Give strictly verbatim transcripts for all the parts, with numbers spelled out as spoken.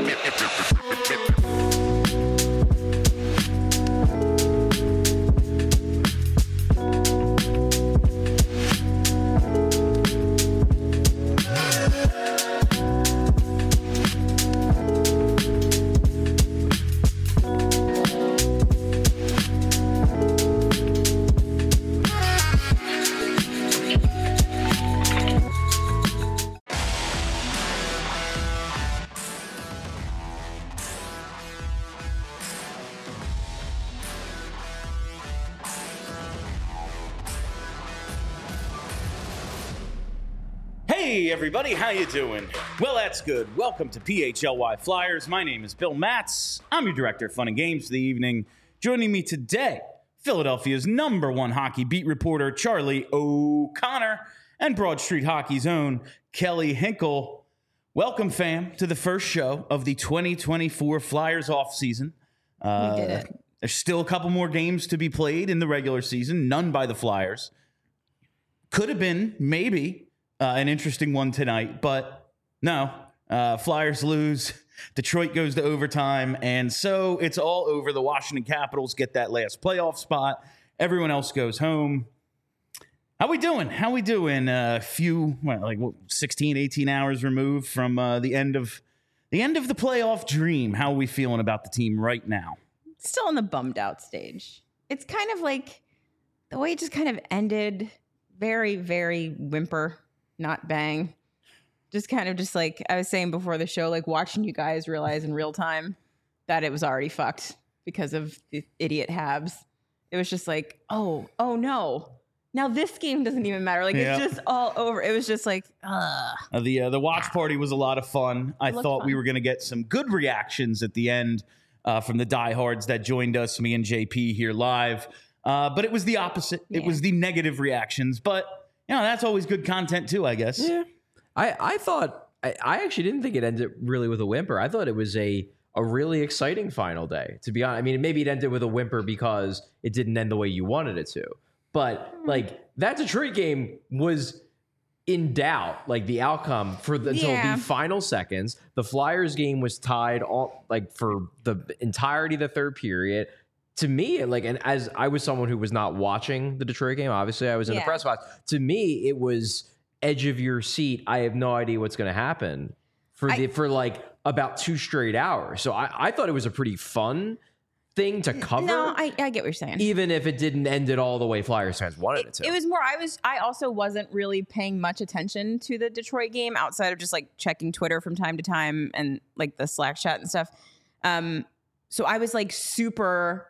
Hey everybody, how you doing? Well, that's good. Welcome to P H L Y Flyers. My name is Bill Matz. I'm your director of fun and games for the evening. Joining me today, Philadelphia's number one hockey beat reporter, Charlie O'Connor, and Broad Street Hockey's own Kelly Hinkle. Welcome, fam, to the first show of the twenty twenty-four Flyers offseason. Uh, we did it. There's still a couple more games to be played in the regular season, none by the Flyers. Could have been, maybe, Uh, an interesting one tonight, but no, uh, Flyers lose. Detroit goes to overtime, and so it's all over. The Washington Capitals get that last playoff spot. Everyone else goes home. How we doing? How we doing? A uh, few, well, like what, sixteen, eighteen hours removed from uh, the end of the end of the playoff dream. How are we feeling about the team right now? Still in the bummed out stage. It's kind of like the way it just kind of ended. Very, very whimper. Not bang. Just kind of just like I was saying before the show, like watching you guys realize in real time that it was already fucked because of the idiot Habs. It was just like, oh, oh no. Now this game doesn't even matter. Like Yeah. it's just all over. It was just like, ugh. Uh, the uh, the watch party was a lot of fun. I thought fun. we were going to get some good reactions at the end uh, from the diehards that joined us, me and J P here live. Uh, but it was the opposite. Yeah. It was the negative reactions. But you know, that's always good content too, I guess. Yeah, I, I thought I, I actually didn't think it ended really with a whimper. I thought it was a a really exciting final day. To be honest, I mean, maybe it ended with a whimper because it didn't end the way you wanted it to. But like that Detroit game was in doubt, like the outcome for the, until Yeah. the final seconds. The Flyers game was tied all like for the entirety of the third period. To me, like, and as I was someone who was not watching the Detroit game, obviously I was in Yeah. the press box. To me, it was edge of your seat. I have no idea what's going to happen for I, the for like about two straight hours. So I, I thought it was a pretty fun thing to cover. No, I, I get what you're saying. Even if it didn't end it all the way Flyers fans wanted it, It, to. it was more, I was, I also wasn't really paying much attention to the Detroit game outside of just like checking Twitter from time to time and like the Slack chat and stuff. Um, so I was like super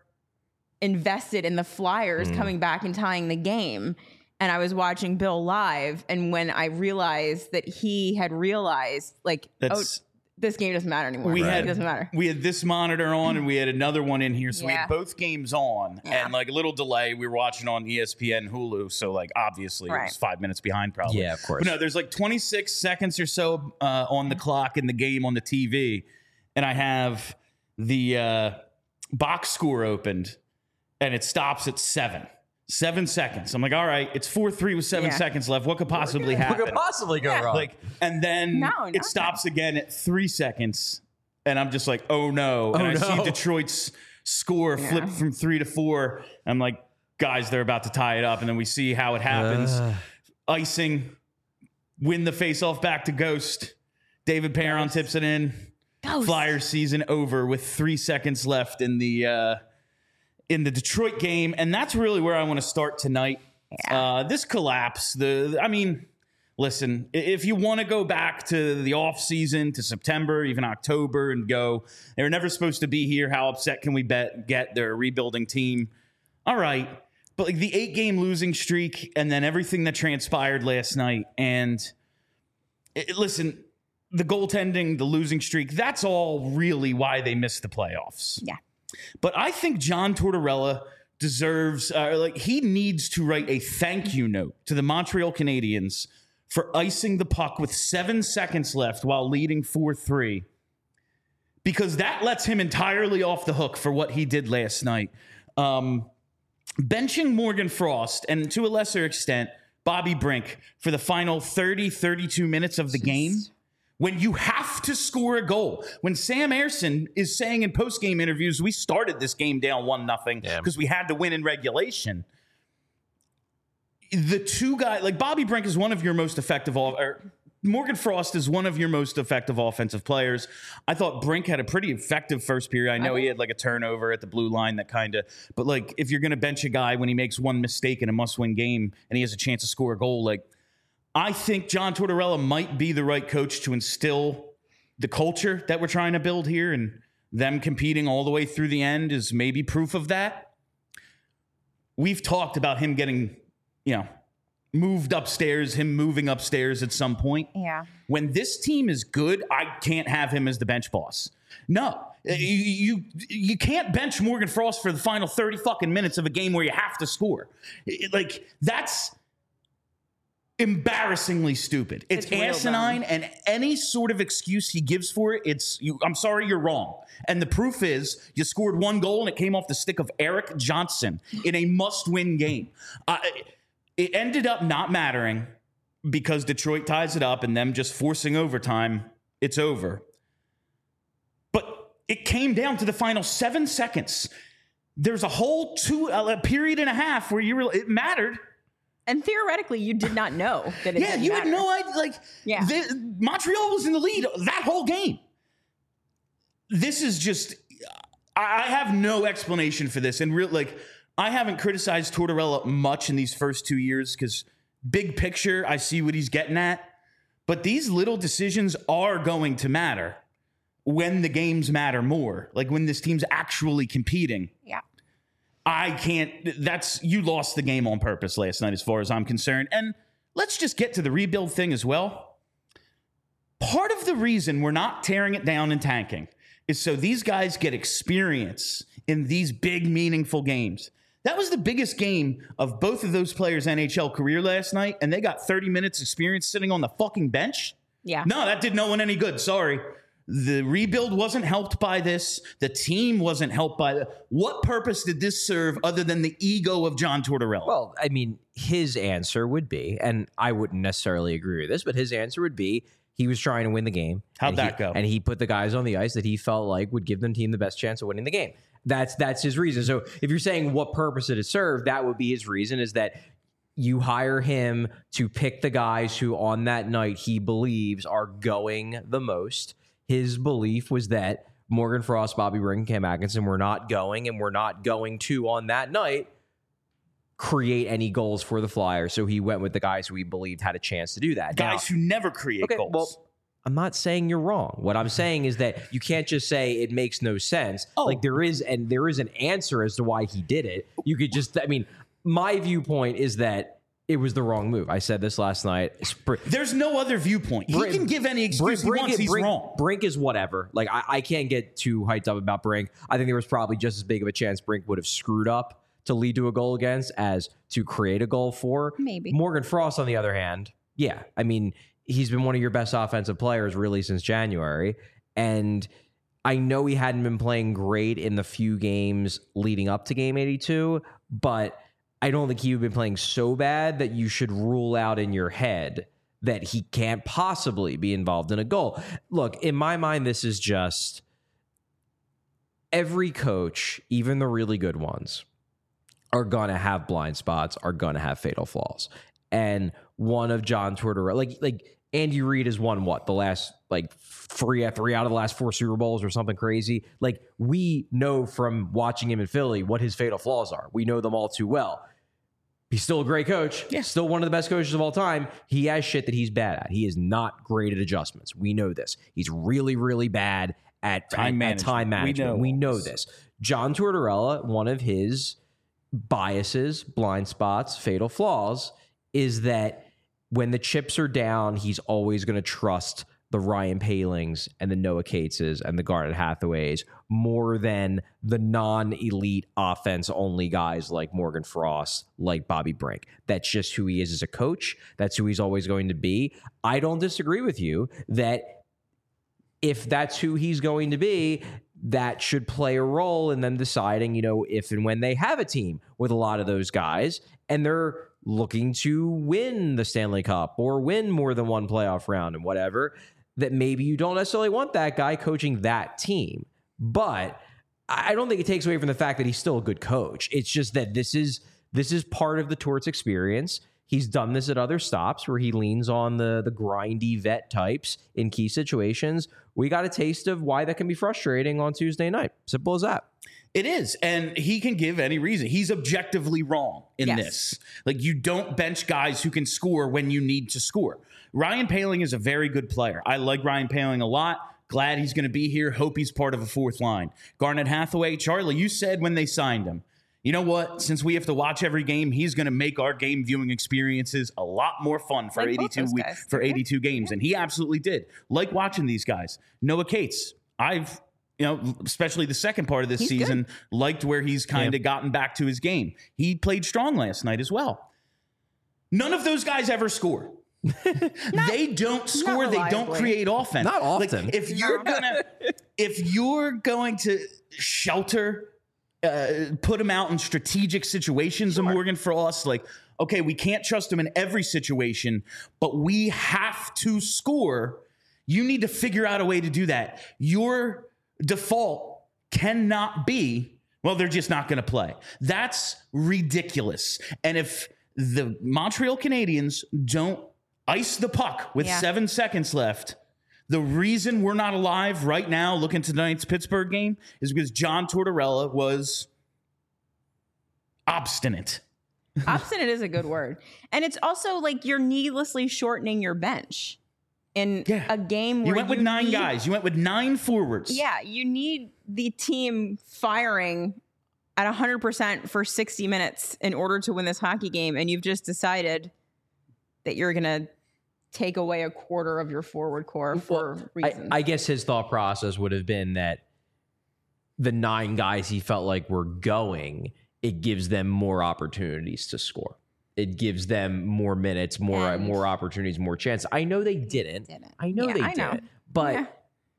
invested in the Flyers Mm. coming back and tying the game. And I was watching Bill live. And when I realized that he had realized like, That's- oh, this game doesn't matter anymore. We Right. had It doesn't matter. We had this monitor on, and we had another one in here, so we Yeah. had both games on, Yeah. and like a little delay. We were watching on E S P N, Hulu, so like obviously it Right. was five minutes behind, probably. Yeah, of course. But no, there's like twenty-six seconds or so uh, on the clock in the game on the T V, and I have the uh, box score opened, and it stops at seven. Seven seconds. I'm like, all right, it's four three with seven Yeah. seconds left. What could possibly What happen? could possibly go Yeah. wrong? Like, and then No, it nothing. stops again at three seconds, and I'm just like, oh no! And Oh, I see no. Detroit's score Yeah. flip from three to four. I'm like, guys, they're about to tie it up, and then we see how it happens. Ugh. Icing, win the faceoff back to Ghost. David Perron tips it in. Ghost. Flyers season over with three seconds left in the uh, in the Detroit game, and that's really where I want to start tonight. Yeah. Uh, this collapse, the I mean, listen, i- if you want to go back to the off season, to September, even October, and go, they were never supposed to be here. How upset can we bet get? They're a rebuilding team. All right, but like the eight game losing streak, and then everything that transpired last night, and it, listen. The goaltending, the losing streak, that's all really why they missed the playoffs. Yeah. But I think John Tortorella deserves, uh, like, he needs to write a thank you note to the Montreal Canadiens for icing the puck with seven seconds left while leading four three, because that lets him entirely off the hook for what he did last night. Um, benching Morgan Frost and to a lesser extent, Bobby Brink for the final thirty, thirty-two minutes of the game when you have to score a goal. When Sam Ersson is saying in post-game interviews, we started this game down one nothing because we had to win in regulation. The two guys, like Bobby Brink is one of your most effective, or Morgan Frost is one of your most effective offensive players. I thought Brink had a pretty effective first period. I know he had like a turnover at the blue line that kind of, but like if you're going to bench a guy when he makes one mistake in a must-win game and he has a chance to score a goal, like I think John Tortorella might be the right coach to instill the culture that we're trying to build here, and them competing all the way through the end is maybe proof of that. We've talked about him getting, you know, moved upstairs, him moving upstairs at some point. Yeah. When this team is good, I can't have him as the bench boss. No, you, you you can't bench Morgan Frost for the final thirty fucking minutes of a game where you have to score. It, like that's embarrassingly stupid. It's, it's asinine, and any sort of excuse he gives for it, it's you. I'm sorry, you're wrong. And the proof is you scored one goal and it came off the stick of Eric Johnson in a must-win game. Uh, it ended up not mattering because Detroit ties it up and them just forcing overtime. It's over. But it came down to the final seven seconds. There's a whole two a period and a half where you were. It mattered. And theoretically, you did not know that it yeah, didn't you matter. had no idea. Like, yeah. the, Montreal was in the lead that whole game. This is just, I have no explanation for this. And real, like, I haven't criticized Tortorella much in these first two years because big picture, I see what he's getting at. But these little decisions are going to matter when the games matter more. Like when this team's actually competing. Yeah. I can't, that's, you lost the game on purpose last night as far as I'm concerned. And let's just get to the rebuild thing as well. Part of the reason we're not tearing it down and tanking is so these guys get experience in these big, meaningful games. That was the biggest game of both of those players' N H L career last night, and they got thirty minutes experience sitting on the fucking bench. Yeah. No, that did no one any good. Sorry. The rebuild wasn't helped by this. The team wasn't helped by the. What purpose did this serve other than the ego of John Tortorella? Well, I mean, his answer would be, and I wouldn't necessarily agree with this, but his answer would be he was trying to win the game. How'd that he, go? And he put the guys on the ice that he felt like would give the team the best chance of winning the game. That's that's his reason. So if you're saying what purpose did it serve, that would be his reason, is that you hire him to pick the guys who on that night he believes are going the most. His belief was that Morgan Frost, Bobby Brink, and Cam Atkinson were not going, and were not going to, on that night, create any goals for the Flyers. So he went with the guys who he believed had a chance to do that. Guys now, who never create okay, goals. Well, I'm not saying you're wrong. What I'm saying is that you can't just say it makes no sense. Oh. Like there is, and there is an answer as to why he did it. You could just, I mean, my viewpoint is that it was the wrong move. I said this last night. There's no other viewpoint. He Brink, can give any excuse Brink, he wants. Brink, He's Brink, wrong. Brink is whatever. Like I, I can't get too hyped up about Brink. I think there was probably just as big of a chance Brink would have screwed up to lead to a goal against as to create a goal for. Maybe. Morgan Frost, on the other hand, yeah. I mean, he's been one of your best offensive players really since January. And I know he hadn't been playing great in the few games leading up to game eighty-two, but I don't think he'd been playing so bad that you should rule out in your head that he can't possibly be involved in a goal. Look, in my mind, this is just every coach, even the really good ones, are going to have blind spots, are going to have fatal flaws. And one of John Tortorella, like, like Andy Reid has won what? The last, like, three, three out of the last four Super Bowls or something crazy. Like, we know from watching him in Philly what his fatal flaws are. We know them all too well. He's still a great coach. Yeah. Still one of the best coaches of all time. He has shit that he's bad at. He is not great at adjustments. We know this. He's really, really bad at time, at, management. At time management. We know, we know this. John Tortorella, one of his biases, blind spots, fatal flaws, is that when the chips are down, he's always going to trust the Ryan Palings and the Noah Cateses and the Garnet Hathaways more than the non-elite offense-only guys like Morgan Frost, like Bobby Brink. That's just who he is as a coach. That's who he's always going to be. I don't disagree with you that if that's who he's going to be, that should play a role in them deciding, you know, if and when they have a team with a lot of those guys and they're looking to win the Stanley Cup or win more than one playoff round and whatever, that maybe you don't necessarily want that guy coaching that team. But I don't think it takes away from the fact that he's still a good coach. It's just that this is this is part of the Torts experience. He's done this at other stops where he leans on the, the grindy vet types in key situations. We got a taste of why that can be frustrating on Tuesday night. Simple as that. It is. And he can give any reason. He's objectively wrong in Yes. this. Like, you don't bench guys who can score when you need to score. Ryan Poehling is a very good player. I like Ryan Poehling a lot. Glad he's going to be here. Hope he's part of a fourth line. Garnet Hathaway, Charlie, you said when they signed him, you know what? Since we have to watch every game, he's going to make our game viewing experiences a lot more fun for Like both eighty-two those we- guys. for Yeah. eighty-two games, and he absolutely did. Like watching these guys. Noah Cates, I've you know, especially the second part of this He's season, liked where he's kind of gotten back to his game. He played strong last night as well. None of those guys ever score. They don't score. They don't reliably. create offense. Not Like, often. if you're gonna, if you're going to shelter, uh, put him out in strategic situations of Morgan Frost, like, okay, we can't trust him in every situation, but we have to score. You need to figure out a way to do that. Your default cannot be, well, they're just not going to play. That's ridiculous. And if the Montreal Canadiens don't ice the puck with Yeah. seven seconds left, the reason we're not alive right now looking to tonight's Pittsburgh game is because John Tortorella was obstinate. Obstinate is a good word. And it's also like you're needlessly shortening your bench in Yeah. a game where You went with nine need- guys. You went with nine forwards. Yeah, you need the team firing at one hundred percent for sixty minutes in order to win this hockey game. And you've just decided that you're going to take away a quarter of your forward core for Well, reasons. I, I guess his thought process would have been that the nine guys he felt like were going, it gives them more opportunities to score. It gives them more minutes, more And- more opportunities, more chance. I know they didn't. Didn't. I know Yeah, they I know. didn't. But Yeah.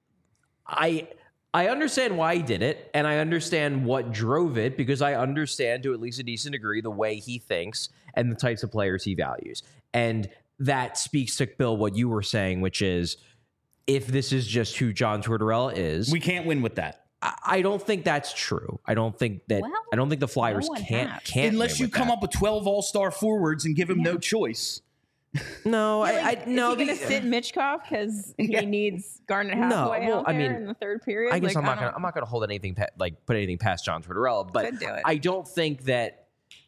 I I understand why he did it, and I understand what drove it, because I understand to at least a decent degree the way he thinks and the types of players he values. And that speaks to, Bill, what you were saying, which is, if this is just who John Tortorella is, We can't win with that. I, I don't think that's true. I don't think that. Well, I don't think the Flyers one can't has. can't Unless win you with come that. up with twelve all-star forwards and give him no choice. No, Yeah, I, like, I no. is he the- going to sit Mitchkov because he Yeah. needs Garnet No, Hathaway well, out I there mean, in the third period? I guess Like, I'm not don't- gonna I'm not gonna hold anything pa- like put anything past John Tortorella, but Could do it. I don't think that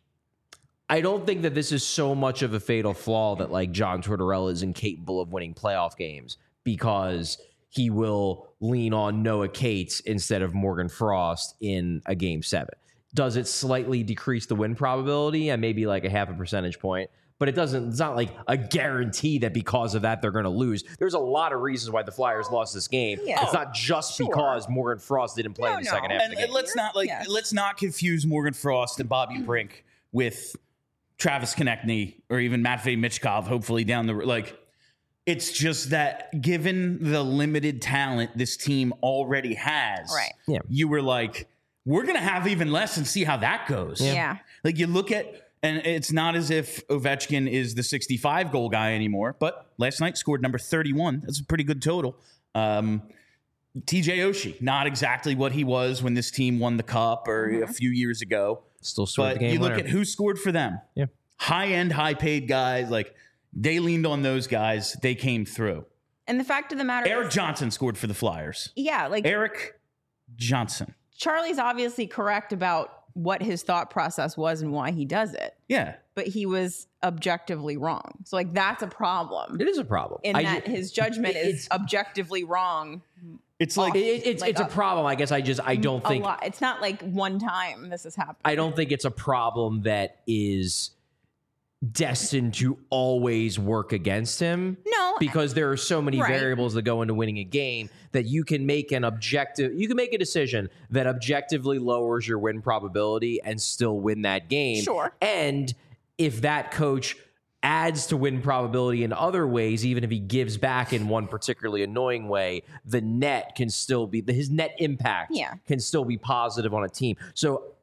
I don't think that this is so much of a fatal flaw that like John Tortorella is incapable of winning playoff games because he will lean on Noah Cates instead of Morgan Frost in a game seven. Does it slightly decrease the win probability and maybe like a half a percentage point? But it doesn't, it's not like a guarantee that because of that they're going to lose. There's a lot of reasons why the Flyers lost this game. Yeah. It's not just Sure. because Morgan Frost didn't play No, in the no. second half of And, the and game. let's not like Yes. let's not confuse Morgan Frost and Bobby Brink with Travis Konechny or even Matvei Michkov. Hopefully down the like, it's just that given the limited talent this team already has, Right. Yeah. you were like, we're gonna have even less and see how that goes. Yeah. Like you look at, and it's not as if Ovechkin is the sixty-five goal guy anymore, but last night scored number thirty-one. That's a pretty good total. Um, T J Oshie, not exactly what he was when this team won the cup or a few years ago. Still scored But the game you look winner. at who scored for them. Yeah. High end, high paid guys. Like they leaned on those guys. They came through. And the fact of the matter Eric is, Johnson scored for the Flyers. yeah, like Eric Johnson. Charlie's obviously correct about what his thought process was and why he does it, Yeah. but he was objectively wrong. So like that's a problem It is a problem. in I that ju- his judgment it- is objectively wrong. It's like it- it- it's like it's a a- problem. I guess I just I don't A think lot. It's not like one time this has happened. I don't think it's a problem that is destined to always work against him. No, Because there are so many Right. variables that go into winning a game that you can make an objective, you can make a decision that objectively lowers your win probability and still win that game. Sure. And if that coach adds to win probability in other ways, even if he gives back in one particularly annoying way, the net can still be, his net impact Yeah. can still be positive on a team. So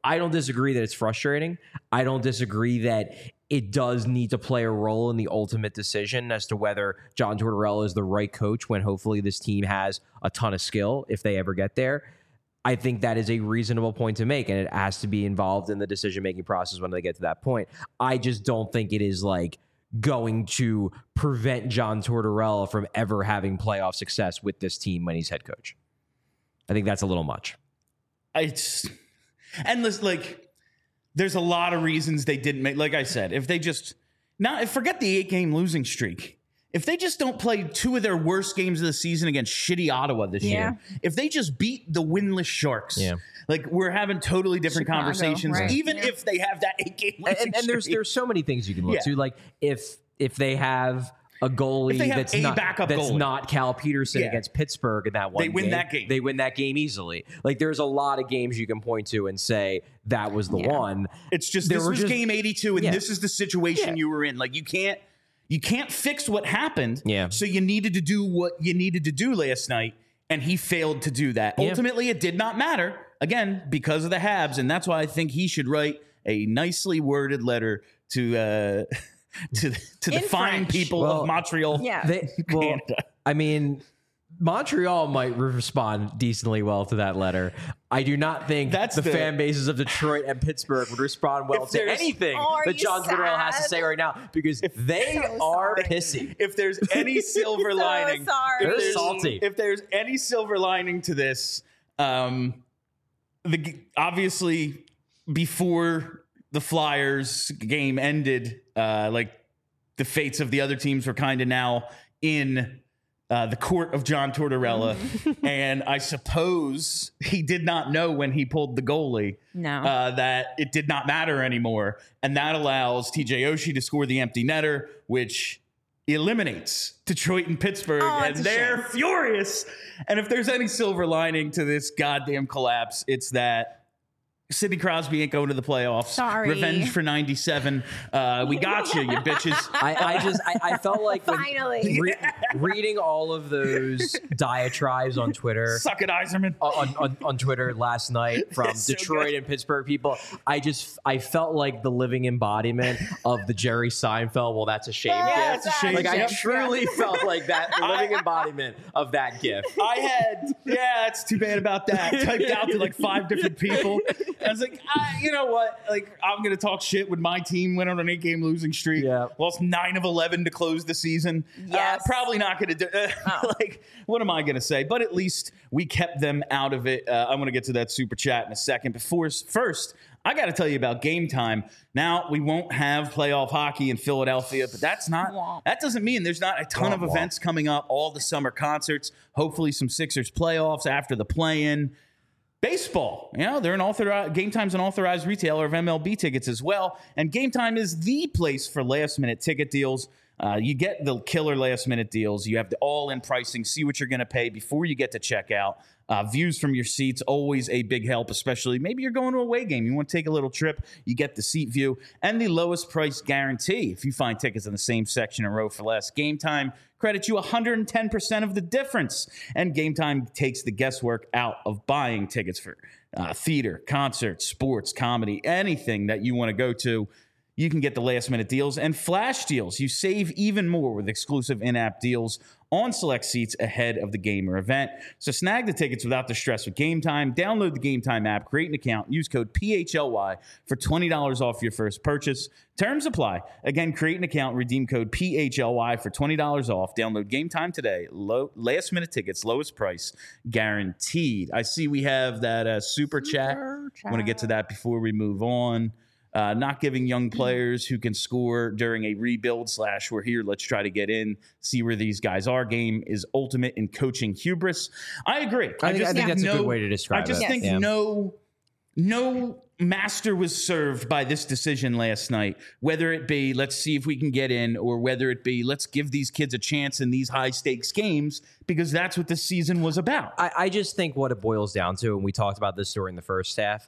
I don't disagree that it's frustrating. I don't disagree that it does need to play a role in the ultimate decision as to whether John Tortorella is the right coach when hopefully this team has a ton of skill if they ever get there. I think that is a reasonable point to make, and it has to be involved in the decision-making process when they get to that point. I just don't think it is like going to prevent John Tortorella from ever having playoff success with this team when he's head coach. I think that's a little much. It's and listen, like there's a lot of reasons they didn't make. Like I said, if they just now forget the eight game losing streak. If they just don't play two of their worst games of the season against shitty Ottawa this Yeah. year, if they just beat the winless Sharks, Yeah. like we're having totally different Chicago, conversations, right. even Yeah. if they have that eight game losing And, and there's streak. there's so many things you can look Yeah. to. Like if if they have a goalie If they have that's a not backup that's goalie. not Cal Peterson Yeah. against Pittsburgh in that one They win game, that game. They win that game easily. Like there's a lot of games you can point to and say that was the Yeah. one. It's just There this were was just- game eighty-two, and Yeah. this is the situation Yeah. you were in. Like you can't you can't fix what happened. Yeah. So you needed to do what you needed to do last night, and he failed to do that. Yeah. Ultimately, it did not matter again because of the Habs, and that's why I think he should write a nicely worded letter to uh, to to the In fine French. people Well, of Montreal. Yeah. They, well, Canada. I mean, Montreal might respond decently well to that letter. I do not think That's the, the- fan bases of Detroit and Pittsburgh would respond well If to there's- anything Oh, are that you John Tortorella has to sad? say right now because they So are sorry. pissy. If there's any silver So lining, sorry. if They're there's- salty. If there's any silver lining to this, um, the g- obviously before the Flyers game ended, uh, like the fates of the other teams were kind of now in uh, the court of John Tortorella, and I suppose he did not know when he pulled the goalie No. uh, that it did not matter anymore, and that allows T J Oshie to score the empty netter, which eliminates Detroit and Pittsburgh, Oh, and it's a they're shame. furious. And if there's any silver lining to this goddamn collapse, it's that Sidney Crosby ain't going to the playoffs. Sorry. Revenge for ninety-seven. Uh, we got you, you bitches. I, I just I, I felt like when Finally. re- reading all of those diatribes on Twitter Suck it, Iserman. on, on, on Twitter last night from It's so Detroit good. and Pittsburgh people, I just I felt like the living embodiment of the Jerry Seinfeld. Well, that's a shame. Yeah, gift. it's a shame Like I gift. truly felt like that the living embodiment of that gift. I had, yeah, it's too bad about that. Typed out to like five different people. I was like, ah, you know what? Like, I'm going to talk shit when my team went on an eight game losing streak. Yeah. Lost nine of eleven to close the season. Yes. Uh, probably not going to do uh, Oh. Like, what am I going to say? But at least we kept them out of it. Uh, I'm going to get to that super chat in a second. Before First, I got to tell you about Game Time. Now, we won't have playoff hockey in Philadelphia, but that's not, Womp. that doesn't mean there's not a ton of Womp womp. events coming up, all the summer concerts, hopefully some Sixers playoffs after the play-in. Baseball, you know, they're an authorized, Game Time's an authorized retailer of M L B tickets as well. And Game Time is the place for last minute ticket deals. Uh, you get the killer last minute deals. You have the all in pricing, see what you're going to pay before you get to checkout. Uh, views from your seats, always a big help, especially maybe you're going to a away game. You want to take a little trip, you get the seat view and the lowest price guarantee. If you find tickets in the same section and row for less, Game Time credits you one hundred ten percent of the difference. And Game Time takes the guesswork out of buying tickets for uh, theater, concerts, sports, comedy, anything that you want to go to. You can get the last minute deals and flash deals. You save even more with exclusive in-app deals on select seats ahead of the game or event. So snag the tickets without the stress with Game Time. Download the Game Time app, create an account, use code P H L Y for twenty dollars off your first purchase. Terms apply. Again, create an account, redeem code P H L Y for twenty dollars off. Download Game Time today. Low, last minute tickets, lowest price guaranteed. I see we have that uh, super, chat. I want to get to that before we move on. Uh, not giving young players who can score during a rebuild slash we're here, let's try to get in, see where these guys are. Game is ultimate in coaching hubris. I agree. I think, I think that's no, a good way to describe I just it. think Yeah. no, no master was served by this decision last night, whether it be let's see if we can get in or whether it be let's give these kids a chance in these high stakes games because that's what this season was about. I, I just think what it boils down to, and we talked about this during the first half,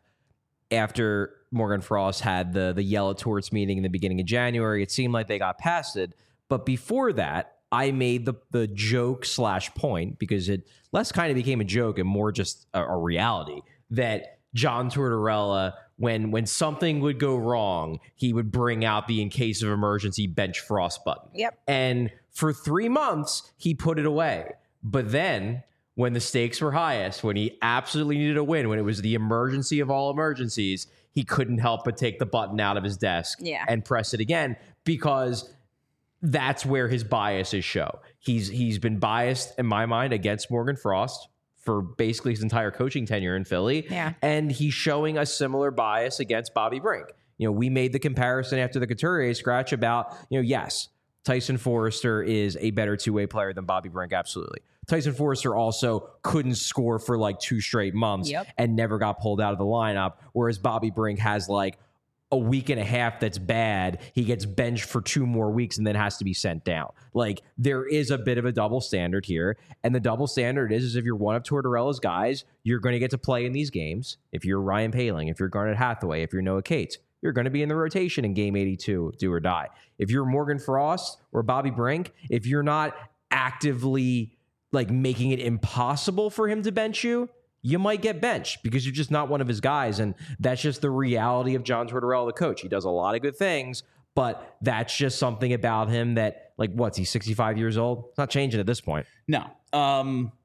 after Morgan Frost had the the yell at Torts meeting in the beginning of January, it seemed like they got past it. But before that, I made the the joke slash point, because it less kind of became a joke and more just a, a reality, that John Tortorella when when something would go wrong, he would bring out the in case of emergency bench Frost button. Yep. And for three months, he put it away. But then when the stakes were highest, when he absolutely needed a win, when it was the emergency of all emergencies, he couldn't help but take the button out of his desk yeah. and press it again, because that's where his biases show. He's he's been biased, in my mind, against Morgan Frost for basically his entire coaching tenure in Philly. Yeah. And he's showing a similar bias against Bobby Brink. You know, we made the comparison after the Couturier scratch about, you know, yes, Tyson Forrester is a better two-way player than Bobby Brink, absolutely. Tyson Forrester also couldn't score for like two straight months yep. and never got pulled out of the lineup, whereas Bobby Brink has like a week and a half that's bad. He gets benched for two more weeks and then has to be sent down. Like, there is a bit of a double standard here. And the double standard is, is if you're one of Tortorella's guys, you're going to get to play in these games. If you're Ryan Poehling, if you're Garnet Hathaway, if you're Noah Cates, you're going to be in the rotation in game eighty-two, do or die. If you're Morgan Frost or Bobby Brink, if you're not actively like making it impossible for him to bench you, you might get benched because you're just not one of his guys. And that's just the reality of John Tortorella, the coach. He does a lot of good things, but that's just something about him that, like, what's he, sixty-five years old? It's not changing at this point. No. Um,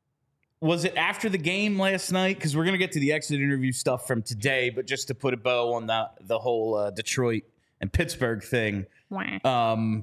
was it after the game last night? Because we're going to get to the exit interview stuff from today, but just to put a bow on the, the whole uh, Detroit and Pittsburgh thing. Um,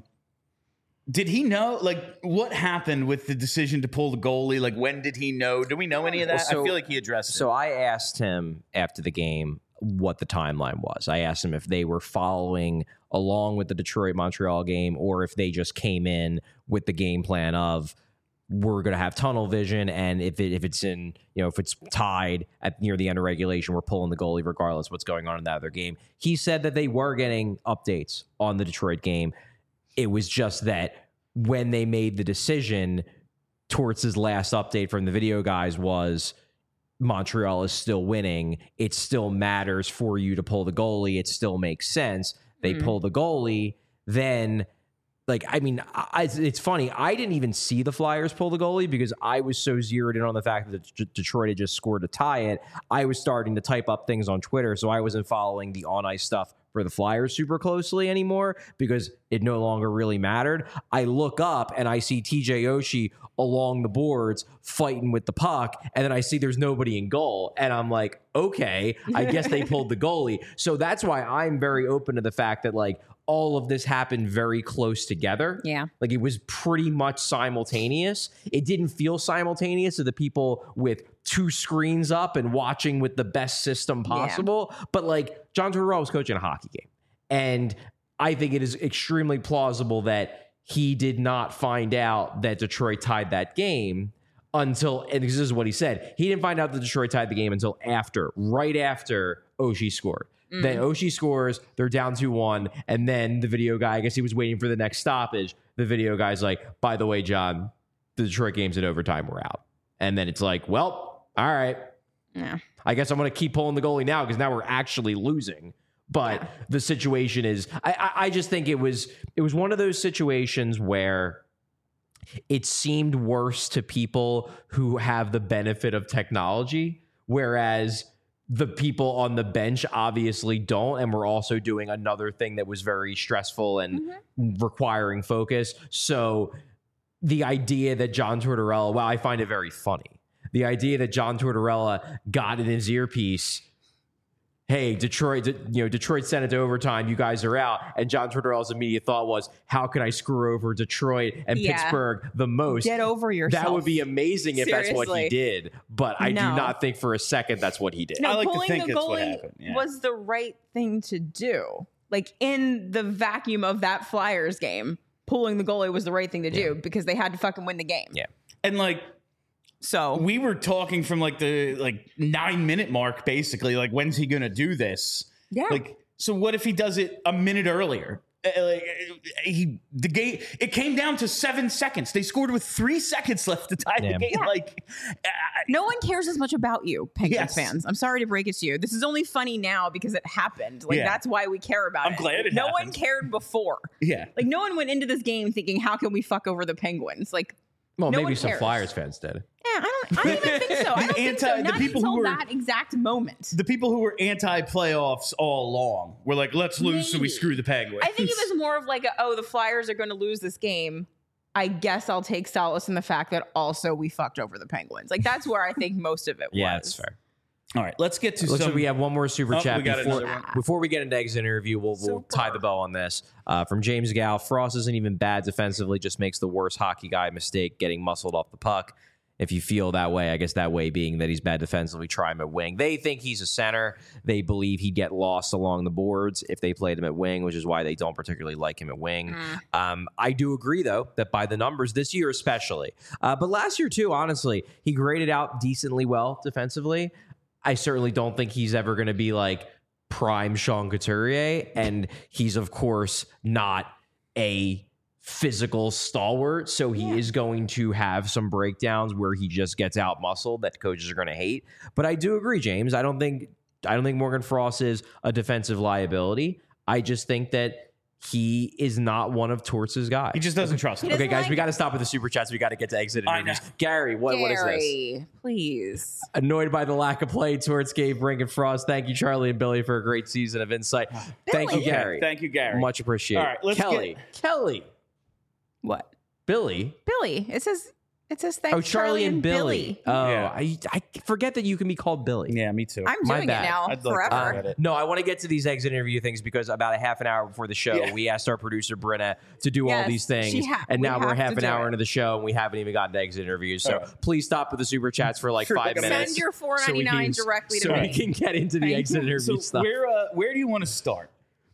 did he know, like, what happened with the decision to pull the goalie? Like, when did he know? Do we know any of that? Well, so, I feel like he addressed it. So I asked him after the game what the timeline was. I asked him if they were following along with the Detroit-Montreal game or if they just came in with the game plan of, we're going to have tunnel vision, and if it if it's in, you know, if it's tied at near the end of regulation, we're pulling the goalie regardless of what's going on in that other game. He said that they were getting updates on the Detroit game. It was just that when they made the decision, Torts' last update from the video guys was Montreal is still winning. It still matters for you to pull the goalie. It still makes sense. They mm. pull the goalie, then... Like, I mean, I, it's funny. I didn't even see the Flyers pull the goalie because I was so zeroed in on the fact that D- Detroit had just scored to tie it. I was starting to type up things on Twitter, so I wasn't following the on-ice stuff for the Flyers super closely anymore because it no longer really mattered. I look up and I see T J Oshie along the boards fighting with the puck, and then I see there's nobody in goal, and I'm like, okay, I guess they pulled the goalie. So that's why I'm very open to the fact that, like, all of this happened very close together. Yeah. Like, it was pretty much simultaneous. It didn't feel simultaneous to the people with two screens up and watching with the best system possible. Yeah. But, like, John Tortorella was coaching a hockey game. And I think it is extremely plausible that he did not find out that Detroit tied that game until, and this is what he said, he didn't find out that Detroit tied the game until after, right after Oshie scored. Mm. Then Oshie scores, they're down two one, and then the video guy, I guess he was waiting for the next stoppage. The video guy's like, by the way, John, the Detroit game's in overtime, we're out. And then it's like, well, all right. Yeah. I guess I'm going to keep pulling the goalie now because now we're actually losing. But yeah. the situation is, I, I, I just think it was it was one of those situations where it seemed worse to people who have the benefit of technology, whereas the people on the bench obviously don't, and we're also doing another thing that was very stressful and mm-hmm. requiring focus. So the idea that John Tortorella, well, I find it very funny. The idea that John Tortorella got in his earpiece, hey, Detroit, you know, Detroit sent it to overtime, you guys are out. And John Tortorella's immediate thought was, how can I screw over Detroit and yeah. Pittsburgh the most? Get over yourself. That would be amazing if Seriously. That's what he did. But I no. do not think for a second that's what he did. No, I like pulling to think the that's what goalie happened. Yeah. was the right thing to do. Like, in the vacuum of that Flyers game, pulling the goalie was the right thing to do yeah. because they had to fucking win the game. Yeah. And, like, so we were talking from like the like nine minute mark, basically, like, when's he going to do this? Yeah. Like, so what if he does it a minute earlier? Uh, like, he the game it came down to seven seconds. They scored with three seconds left to tie yeah. the game. Yeah. Like, uh, no one cares as much about you, Penguins yes. fans. I'm sorry to break it to you. This is only funny now because it happened. Like, yeah. that's why we care about I'm it. I'm glad it no happened. one cared before. Yeah. Like, no one went into this game thinking, how can we fuck over the Penguins? Like, Well, No maybe one some cares. Flyers fans did. Yeah, I don't. I don't even think so. I don't think so. Anti- the Not people who until were- that exact moment. The people who were anti-playoffs all along were like, let's lose so we Maybe. screw the Penguins. I think it was more of like, a, oh, the Flyers are going to lose this game. I guess I'll take solace in the fact that also we fucked over the Penguins. Like that's where I think most of it was. Yeah, that's fair. All right, let's get to Looks some. like we have one more super Oh, chat we got before, another one. before we get into exit interview. We'll, we'll tie the bow on this. Uh, from James Gal, Frost isn't even bad defensively, just makes the worst hockey guy mistake getting muscled off the puck. If you feel that way, I guess that way being that he's bad defensively, try him at wing. They think he's a center. They believe he'd get lost along the boards if they played him at wing, which is why they don't particularly like him at wing. Mm. Um, I do agree, though, that by the numbers this year especially, uh, but last year too, honestly, he graded out decently well defensively. I certainly don't think he's ever going to be like prime Sean Couturier, and he's, of course, not a physical stalwart, so he Yeah. is going to have some breakdowns where he just gets out muscled that coaches are going to hate. But I do agree, James. I don't think I don't think Morgan Frost is a defensive liability. I just think that he is not one of Torts' guys. He just doesn't trust He him. doesn't Okay, guys, like we it. got to stop with the super chats. We got to get to exit I interviews. know. Gary, what, what is this? Gary, please. Annoyed by the lack of play towards Gabe Brink and Frost. Thank you, Charlie and Billy, for a great season of insight. Thank you, Billy. Gary. Thank you, Gary. Much appreciated. All right, let's Kelly. Kelly. What? Billy. Billy. It says it says thanks Oh, Charlie, and Billy. Oh, Yeah. I, I forget that you can be called Billy. Yeah, me too. I'm My doing bad. it now I'd like to forever. get it. No, I want to get to these exit interview things because about a half an hour before the show, Yeah. we asked our producer Brenna to do all Yes, these things, she ha- and we now we're have half to an do hour it. into the show, and we haven't even gotten to exit interviews. So All right. please stop with the super chats for like For five like a minutes. Send your four so we ninety-nine can- directly to so we me. can get into the Thank exit you. interview So stuff. where uh, where do you want to start?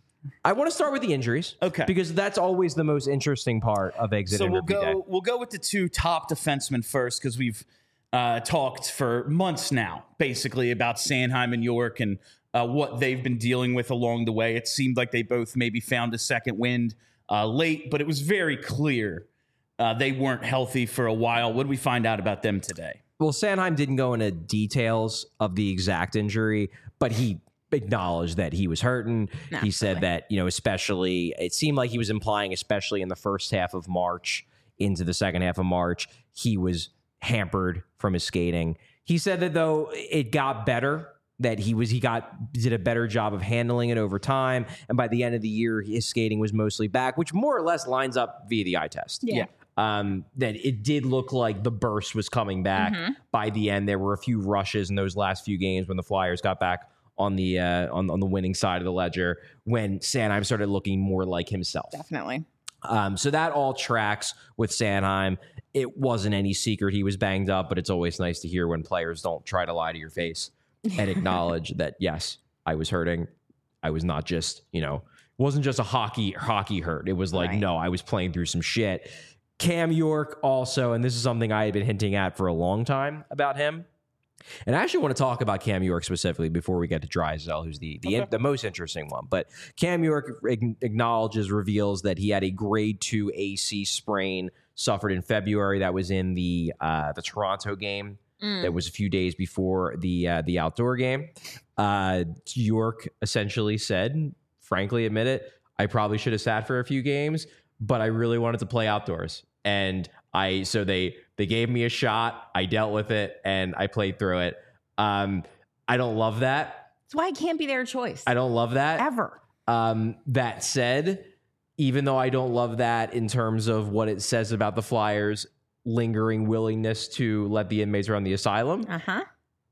I want to start with the injuries, Okay. because that's always the most interesting part of exit So we'll interview go day. we'll go with the two top defensemen first because we've uh, talked for months now, basically about Sanheim and York and uh, what they've been dealing with along the way. It seemed like they both maybe found a second wind uh, late, but it was very clear uh, they weren't healthy for a while. What did we find out about them today? Well, Sanheim didn't go into details of the exact injury, but he acknowledged that he was hurting. He said Naturally. that, you know, especially, it seemed like he was implying, especially in the first half of March into the second half of March, he was hampered from his skating. He said that though it got better, that he was he got did a better job of handling it over time, and by the end of the year his skating was mostly back, which more or less lines up via the eye test. Yeah. Um, that it did look like the burst was coming back. Mhm. By the end, there were a few rushes in those last few games when the Flyers got back on the uh, on, on the winning side of the ledger, when Sanheim started looking more like himself. Definitely. Um, so that all tracks with Sanheim. It wasn't any secret he was banged up, but it's always nice to hear when players don't try to lie to your face and acknowledge that, yes, I was hurting. I was not just, you know, wasn't just a hockey hockey hurt. It was like, Right. no, I was playing through some shit. Cam York also, and this is something I had been hinting at for a long time about him. And I actually want to talk about Cam York specifically before we get to Drysdale, who's the the, Okay. the most interesting one. But Cam York ag- acknowledges, reveals that he had a grade two A C sprain suffered in February. That was in the uh, the Toronto game. Mm. That was a few days before the uh, the outdoor game. Uh, York essentially said, frankly, admit it, I probably should have sat for a few games, but I really wanted to play outdoors. And I so they they gave me a shot. I dealt with it and I played through it. Um, I don't love that. That's why it can't be their choice. I don't love that. Ever. Um, that said, even though I don't love that in terms of what it says about the Flyers' lingering willingness to let the inmates run the asylum, Uh-huh.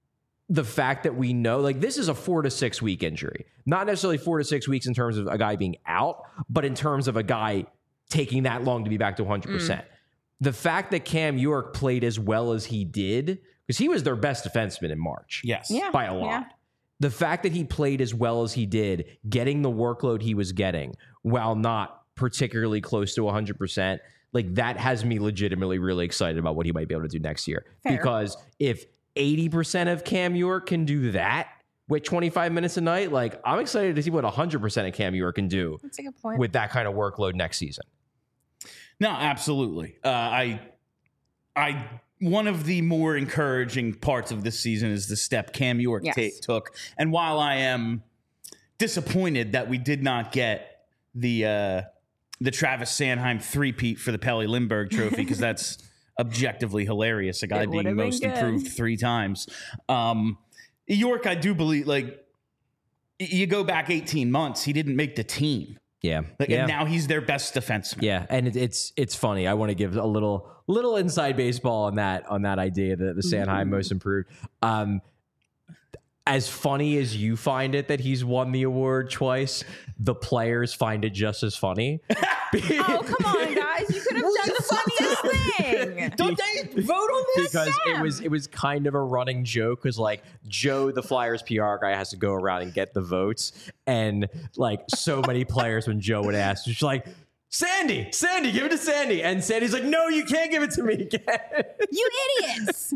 the fact that we know, like, this is a four to six week injury, not necessarily four to six weeks in terms of a guy being out, but in terms of a guy taking that long to be back to one hundred percent. The fact that Cam York played as well as he did, because he was their best defenseman in March. Yes. Yeah. By a lot. Yeah. The fact that he played as well as he did, getting the workload he was getting while not particularly close to one hundred percent, like, that has me legitimately really excited about what he might be able to do next year. Fair. Because if eighty percent of Cam York can do that with twenty-five minutes a night, like, I'm excited to see what one hundred percent of Cam York can do That's a good point. with that kind of workload next season. No, absolutely. Uh, I, I, one of the more encouraging parts of this season is the step Cam York Yes. ta- took. And while I am disappointed that we did not get the uh, the Travis Sanheim three-peat for the Pelly Lindbergh Trophy, because that's objectively hilarious. A guy It being would've been most good. improved three times. Um, York, I do believe, like, y- you go back eighteen months, he didn't make the team. Yeah. Like, yeah. and now he's their best defenseman. Yeah, and it, it's it's funny. I want to give a little little inside baseball on that on that idea that the Sanheim most improved. Um, as funny as you find it that he's won the award twice, the players find it just as funny. Oh, come on, guys. You could have done the funniest thing. Don't they vote on this? Because it was it was kind of a running joke because like Joe, the Flyers P R guy, has to go around and get the votes, and like so many players when Joe would ask, she's like, Sandy, Sandy, give it to Sandy, and Sandy's like, no, you can't give it to me again. You idiots.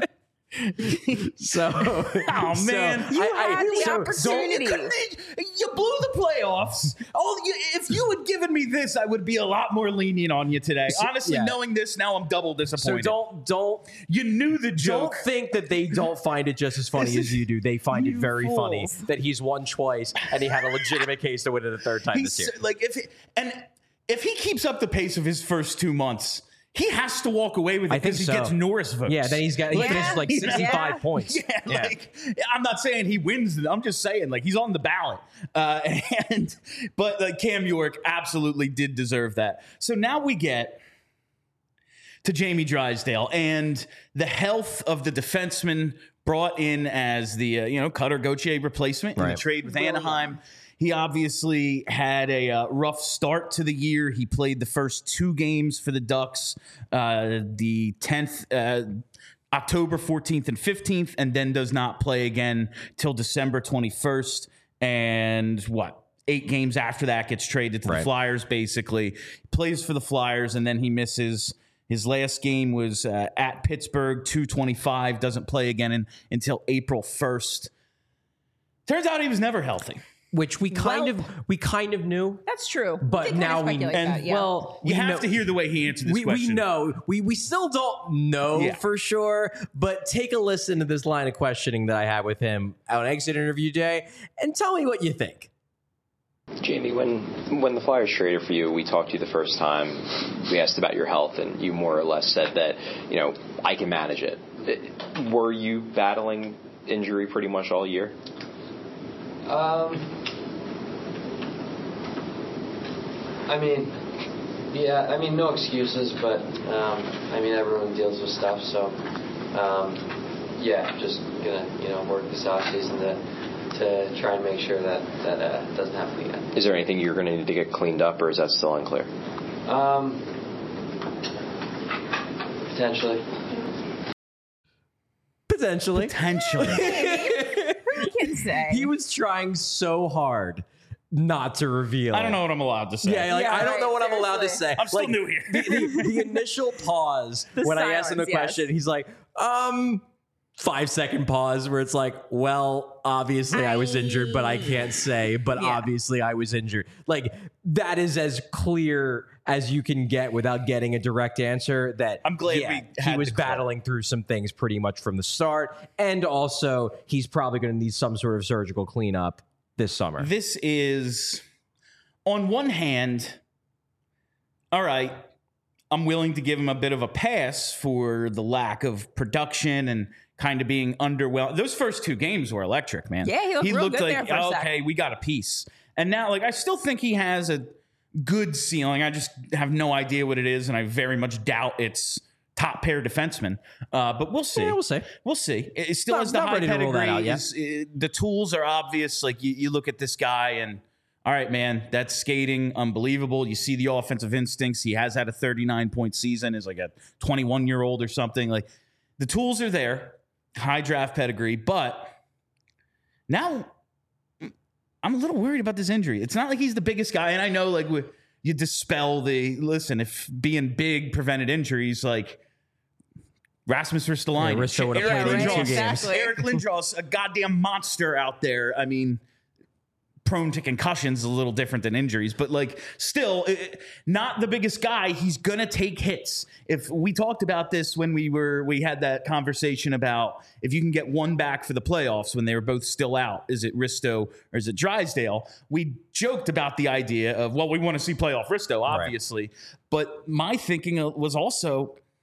So, Oh, so man. You I- I- had the so- opportunity. You, couldn't- you blew the playoffs. Oh, you, if you had given me this, I would be a lot more lenient on you today. Honestly, yeah. knowing this now, I'm double So disappointed. don't don't you knew the don't joke. think that they don't find it just as funny This as is- you do. They find it you very funny fools. that he's won twice and he had a legitimate case to win it a third time He's this year. like if he, and if he keeps up the pace of his first two months, he has to walk away with it I think because he so. gets Norris votes. Yeah, then he's got he Yeah. finishes like Yeah. sixty-five points. Yeah, like I'm not saying he wins. I'm just saying like he's on the ballot. Uh, and but like Cam York absolutely did deserve that. So now we get to Jamie Drysdale and the health of the defenseman brought in as the uh, you know Cutter Gauthier replacement in Right. the trade with Anaheim. He obviously had a uh, rough start to the year. He played the first two games for the Ducks, uh, the tenth, uh, October fourteenth and fifteenth, and then does not play again till December twenty-first. And what? Eight games after that gets traded to the Right. Flyers, basically. Plays for the Flyers, and then he misses. His last game was uh, at Pittsburgh, two twenty-five, doesn't play again in, until April first. Turns out he was never healthy. Which we kind Well- of we kind of knew. That's true. But We did kinda now we- speculate and- that, yeah. Well, You we have know, to hear the way he answered this we, question. we know. We we still don't know Yeah. for sure, but take a listen to this line of questioning that I had with him on exit interview day and tell me what you think. Jamie, when when the Flyers traded for you, we talked to you the first time. We asked about your health, and you more or less said that, you know, I can manage it. It- Were you battling injury pretty much all year? Um, I mean, yeah, I mean, no excuses, but, um, I mean, everyone deals with stuff, so, um, yeah, just gonna, you know, work this off season to, to try and make sure that that uh, doesn't happen again. Is there anything you're going to need to get cleaned up, or is that still unclear? Um, potentially. Potentially. Potentially. Who can say? He was trying so hard not to reveal. I don't know what I'm allowed to say. Yeah, like, Yeah, I don't know right, what I'm allowed to seriously. say. I'm still Like, new here. the, the, the initial pause The when I asked him the silence, yes. question, he's like, um, five second pause where it's like, well, obviously I was injured, but I can't say, but Yeah. obviously I was injured. Like, that is as clear as you can get without getting a direct answer that I'm glad yeah, we he had was the call. battling through some things pretty much from the start. And also he's probably going to need some sort of surgical cleanup this summer. This is, on one hand, all right, I'm willing to give him a bit of a pass for the lack of production and kind of being underwhelmed. Those first two games were electric, man. Yeah, he looked real good like, there for a sec. okay, we got a piece. And now, like, I still think he has a good ceiling. I just have no idea what it is, and I very much doubt it's top pair defenseman. Uh, but we'll see. Yeah, we'll see. We'll see. It it still Not- has the not high ready to rule that pedigree. out yet. Is- it- the tools are obvious. Like you, you look at this guy and, all right, man, that's skating unbelievable. You see the offensive instincts. He has had a thirty-nine point season. Is like a twenty-one year old or something. Like the tools are there. High draft pedigree, but now I'm a little worried about this injury. It's not like he's the biggest guy, and I know like we, you dispel the listen. If being big prevented injuries, like Rasmus Ristolainen, Yeah, Risto would've Eric played in two Lindros, games. Eric Lindros, a goddamn monster out there. I mean, prone to concussions is a little different than injuries, but like still it, not the biggest guy. He's gonna take hits. If we talked about this when we were we had that conversation about if you can get one back for the playoffs when they were both still out, is it Risto or is it Drysdale? We joked about the idea of, well, we want to see playoff Risto, obviously, but my thinking was also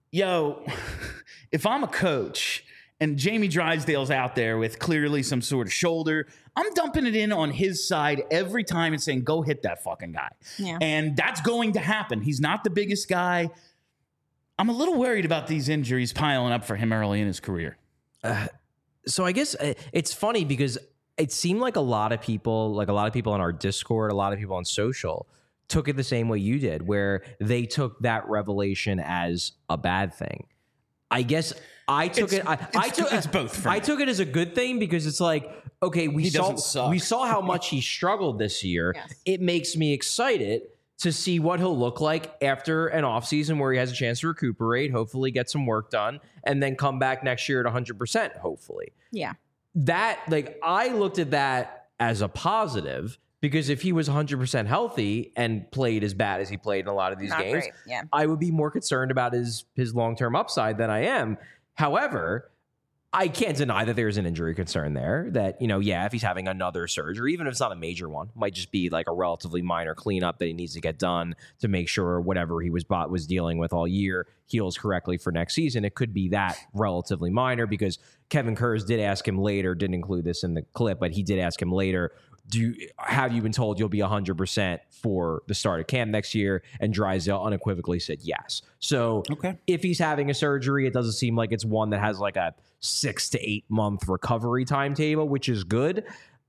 yo, if I'm a coach and Jamie Drysdale's out there with clearly some sort of shoulder, I'm dumping it in on his side every time and saying, go hit that fucking guy. Yeah. And that's going to happen. He's not the biggest guy. I'm a little worried about these injuries piling up for him early in his career. Uh, so I guess uh, it's funny because it seemed like a lot of people, like a lot of people on our Discord, a lot of people on social took it the same way you did, where they took that revelation as a bad thing. I guess I took It's- it. I, I it's- took it's both for I me. took it as a good thing because it's like, okay, we He saw doesn't suck. we saw how much he struggled this year. Yes. It makes me excited to see what he'll look like after an offseason where he has a chance to recuperate, hopefully get some work done, and then come back next year at one hundred percent, hopefully. Yeah. That, like, I looked at that as a positive because if he was one hundred percent healthy and played as bad as he played in a lot of these Not games, great. Yeah. I would be more concerned about his his long-term upside than I am. However, I can't deny that there's an injury concern there that, you know, yeah, if he's having another surgery, even if it's not a major one, might just be like a relatively minor cleanup that he needs to get done to make sure whatever he was bought was dealing with all year heals correctly for next season. It could be that relatively minor because Kevin Kurz did ask him later, didn't include this in the clip, but he did ask him later, do you, have you been told you'll be one hundred percent for the start of camp next year? And Drysdale unequivocally said yes. So Okay. if he's having a surgery, it doesn't seem like it's one that has like a six to eight month recovery timetable, which is good.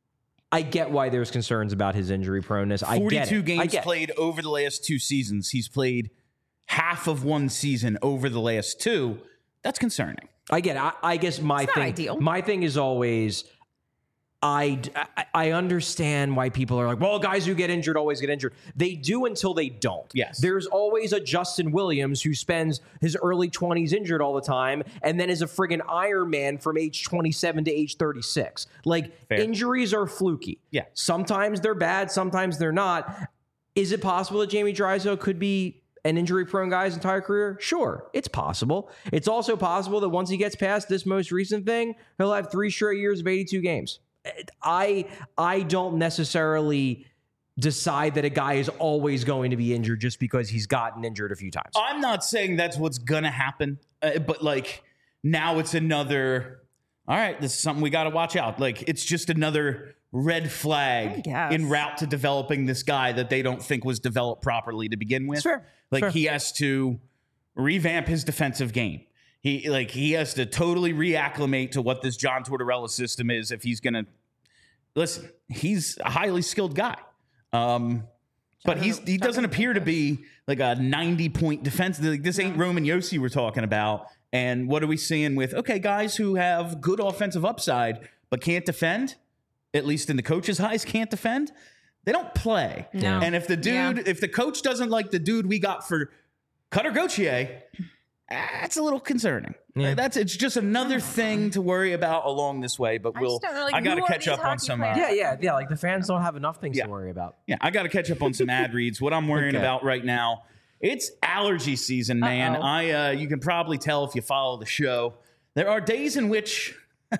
I get why there's concerns about his injury proneness. I get forty-two it. I games get it. played over the last two seasons. He's played half of one season over the last two. That's concerning. I get it. I, I guess my It's not thing, ideal. my thing is always, I, I I understand why people are like, well, guys who get injured always get injured. They do until they don't. Yes. There's always a Justin Williams who spends his early twenties injured all the time and then is a friggin' Iron Man from age twenty-seven to age thirty-six. Like, Fair. injuries are fluky. Yeah. Sometimes they're bad, sometimes they're not. Is it possible that Jamie Drysdale could be an injury-prone guy his entire career? Sure, it's possible. It's also possible that once he gets past this most recent thing, he'll have three straight years of eighty-two games. I I don't necessarily decide that a guy is always going to be injured just because he's gotten injured a few times. I'm not saying that's what's going to happen, uh, but like now it's another, all right, this is something we got to watch out. Like it's just another red I flag guess. in route to developing this guy that they don't think was developed properly to begin with. Sure, Like sure. he has to revamp his defensive game. He like he has to totally reacclimate to what this John Tortorella system is if he's going to listen. He's a highly skilled guy. Um But he's he doesn't appear to be like a ninety point defense. Like this ain't Roman Yossi we're talking about. And what are we seeing with okay guys who have good offensive upside but can't defend? At least in the coach's eyes, can't defend. They don't play. No. And if the dude, Yeah. if the coach doesn't like the dude we got for Cutter Gauthier, that's a little concerning. Yeah. That's it's just another thing to worry about along this way. But I we'll. just don't know, like, I got to who are catch these up on hockey some. Uh, players? yeah, yeah, yeah. Like the fans don't have enough things Yeah. to worry about. Yeah, I got to catch up on some ad reads. What I'm worrying Okay. about right now, it's allergy season, man. Uh-oh. I uh, you can probably tell if you follow the show. There are days in which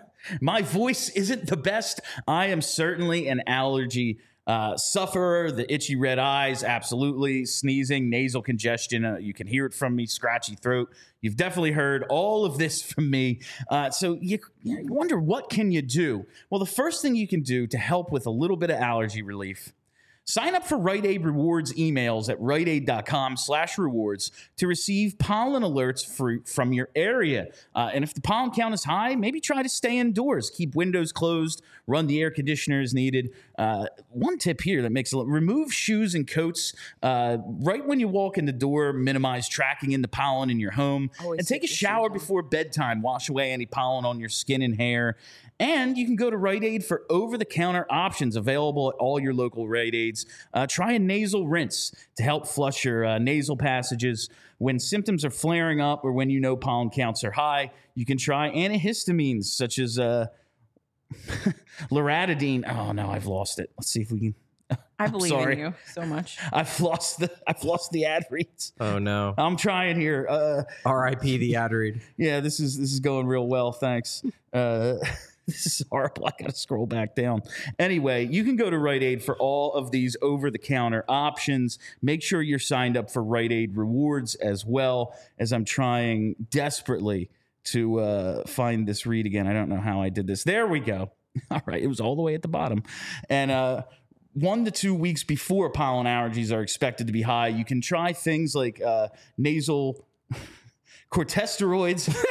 my voice isn't the best. I am certainly an allergy uh, sufferer. The itchy red eyes, absolutely. Sneezing, nasal congestion. Uh, you can hear it from me. Scratchy throat. You've definitely heard all of this from me. Uh, so you, you wonder, what can you do? Well, the first thing you can do to help with a little bit of allergy relief, sign up for Rite Aid Rewards emails at riteaid.com slash rewards to receive pollen alerts for, from your area. Uh, and if the pollen count is high, maybe try to stay indoors. Keep windows closed. Run the air conditioner as needed. Uh, one tip here that makes a remove shoes and coats uh, right when you walk in the door. Minimize tracking in the pollen in your home. Always and take a take your shower shoes on. before bedtime. Wash away any pollen on your skin and hair. And you can go to Rite Aid for over-the-counter options available at all your local Rite Aids. Uh, try a nasal rinse to help flush your uh, nasal passages. When symptoms are flaring up or when you know pollen counts are high, you can try antihistamines such as uh, loratadine. Oh, no, I've lost it. Let's see if we can. I I'm believe sorry. in you so much. I've lost the I've lost the ad reads. Oh no. I'm trying here. Uh, R I P the ad read. Yeah, this is this is going real well. Thanks. Uh, This is horrible. I got to scroll back down. Anyway, you can go to Rite Aid for all of these over-the-counter options. Make sure you're signed up for Rite Aid Rewards as well, as I'm trying desperately to uh, find this read again. I don't know how I did this. There we go. All right. It was all the way at the bottom. And uh, one to two weeks before pollen allergies are expected to be high, you can try things like uh, nasal corticosteroids.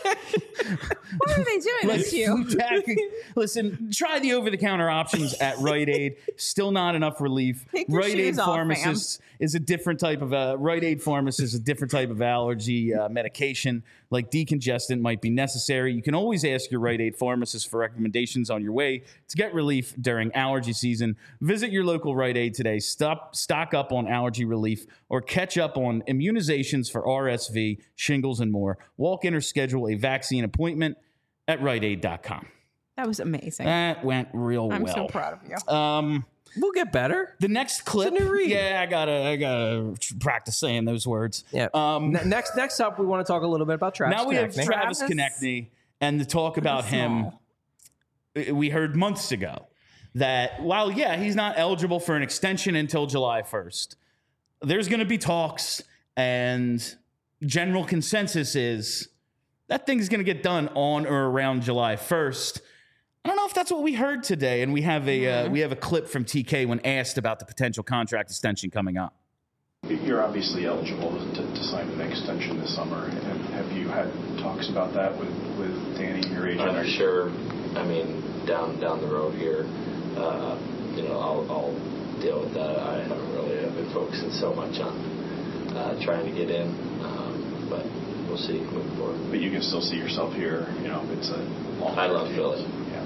What are they doing Like this to you? Flutac- Listen, try the over-the-counter options at Rite Aid. Still not enough relief. Take your Rite Aid shoes off, pharmacist is a different type of uh, Rite Aid pharmacist is a different type of allergy uh, medication, like decongestant, might be necessary. You can always ask your Rite Aid pharmacist for recommendations on your way to get relief during allergy season. Visit your local Rite Aid today. Stop, stock up on allergy relief or catch up on immunizations for R S V, shingles, and more. Walk in or schedule a vaccine appointment at Rite Aid dot com. That was amazing. That went real I'm well. so proud of you. Um, We'll get better. the next clip. It's a new read. Yeah, I gotta, I gotta practice saying those words. Yeah. Um, Ne- next, next up, we want to talk a little bit about Travis. now we have Konechny. Travis Travis- Konechny, and the talk about him. Small. We heard months ago that while yeah, he's not eligible for an extension until July first. There's going to be talks, and general consensus is that thing's going to get done on or around July first. I don't know if that's what we heard today, and we have a uh, we have a clip from T K when asked about the potential contract extension coming up. You're obviously eligible to, to sign an extension this summer. Have, have you had talks about that with, with Danny, your agent? I'm sure. I mean, down down the road here, uh, you know, I'll, I'll deal with that. I haven't really I've been focusing so much on uh, trying to get in, um, but we'll see moving forward. But you can still see yourself here. You know, it's a long. I love Philly. Yeah.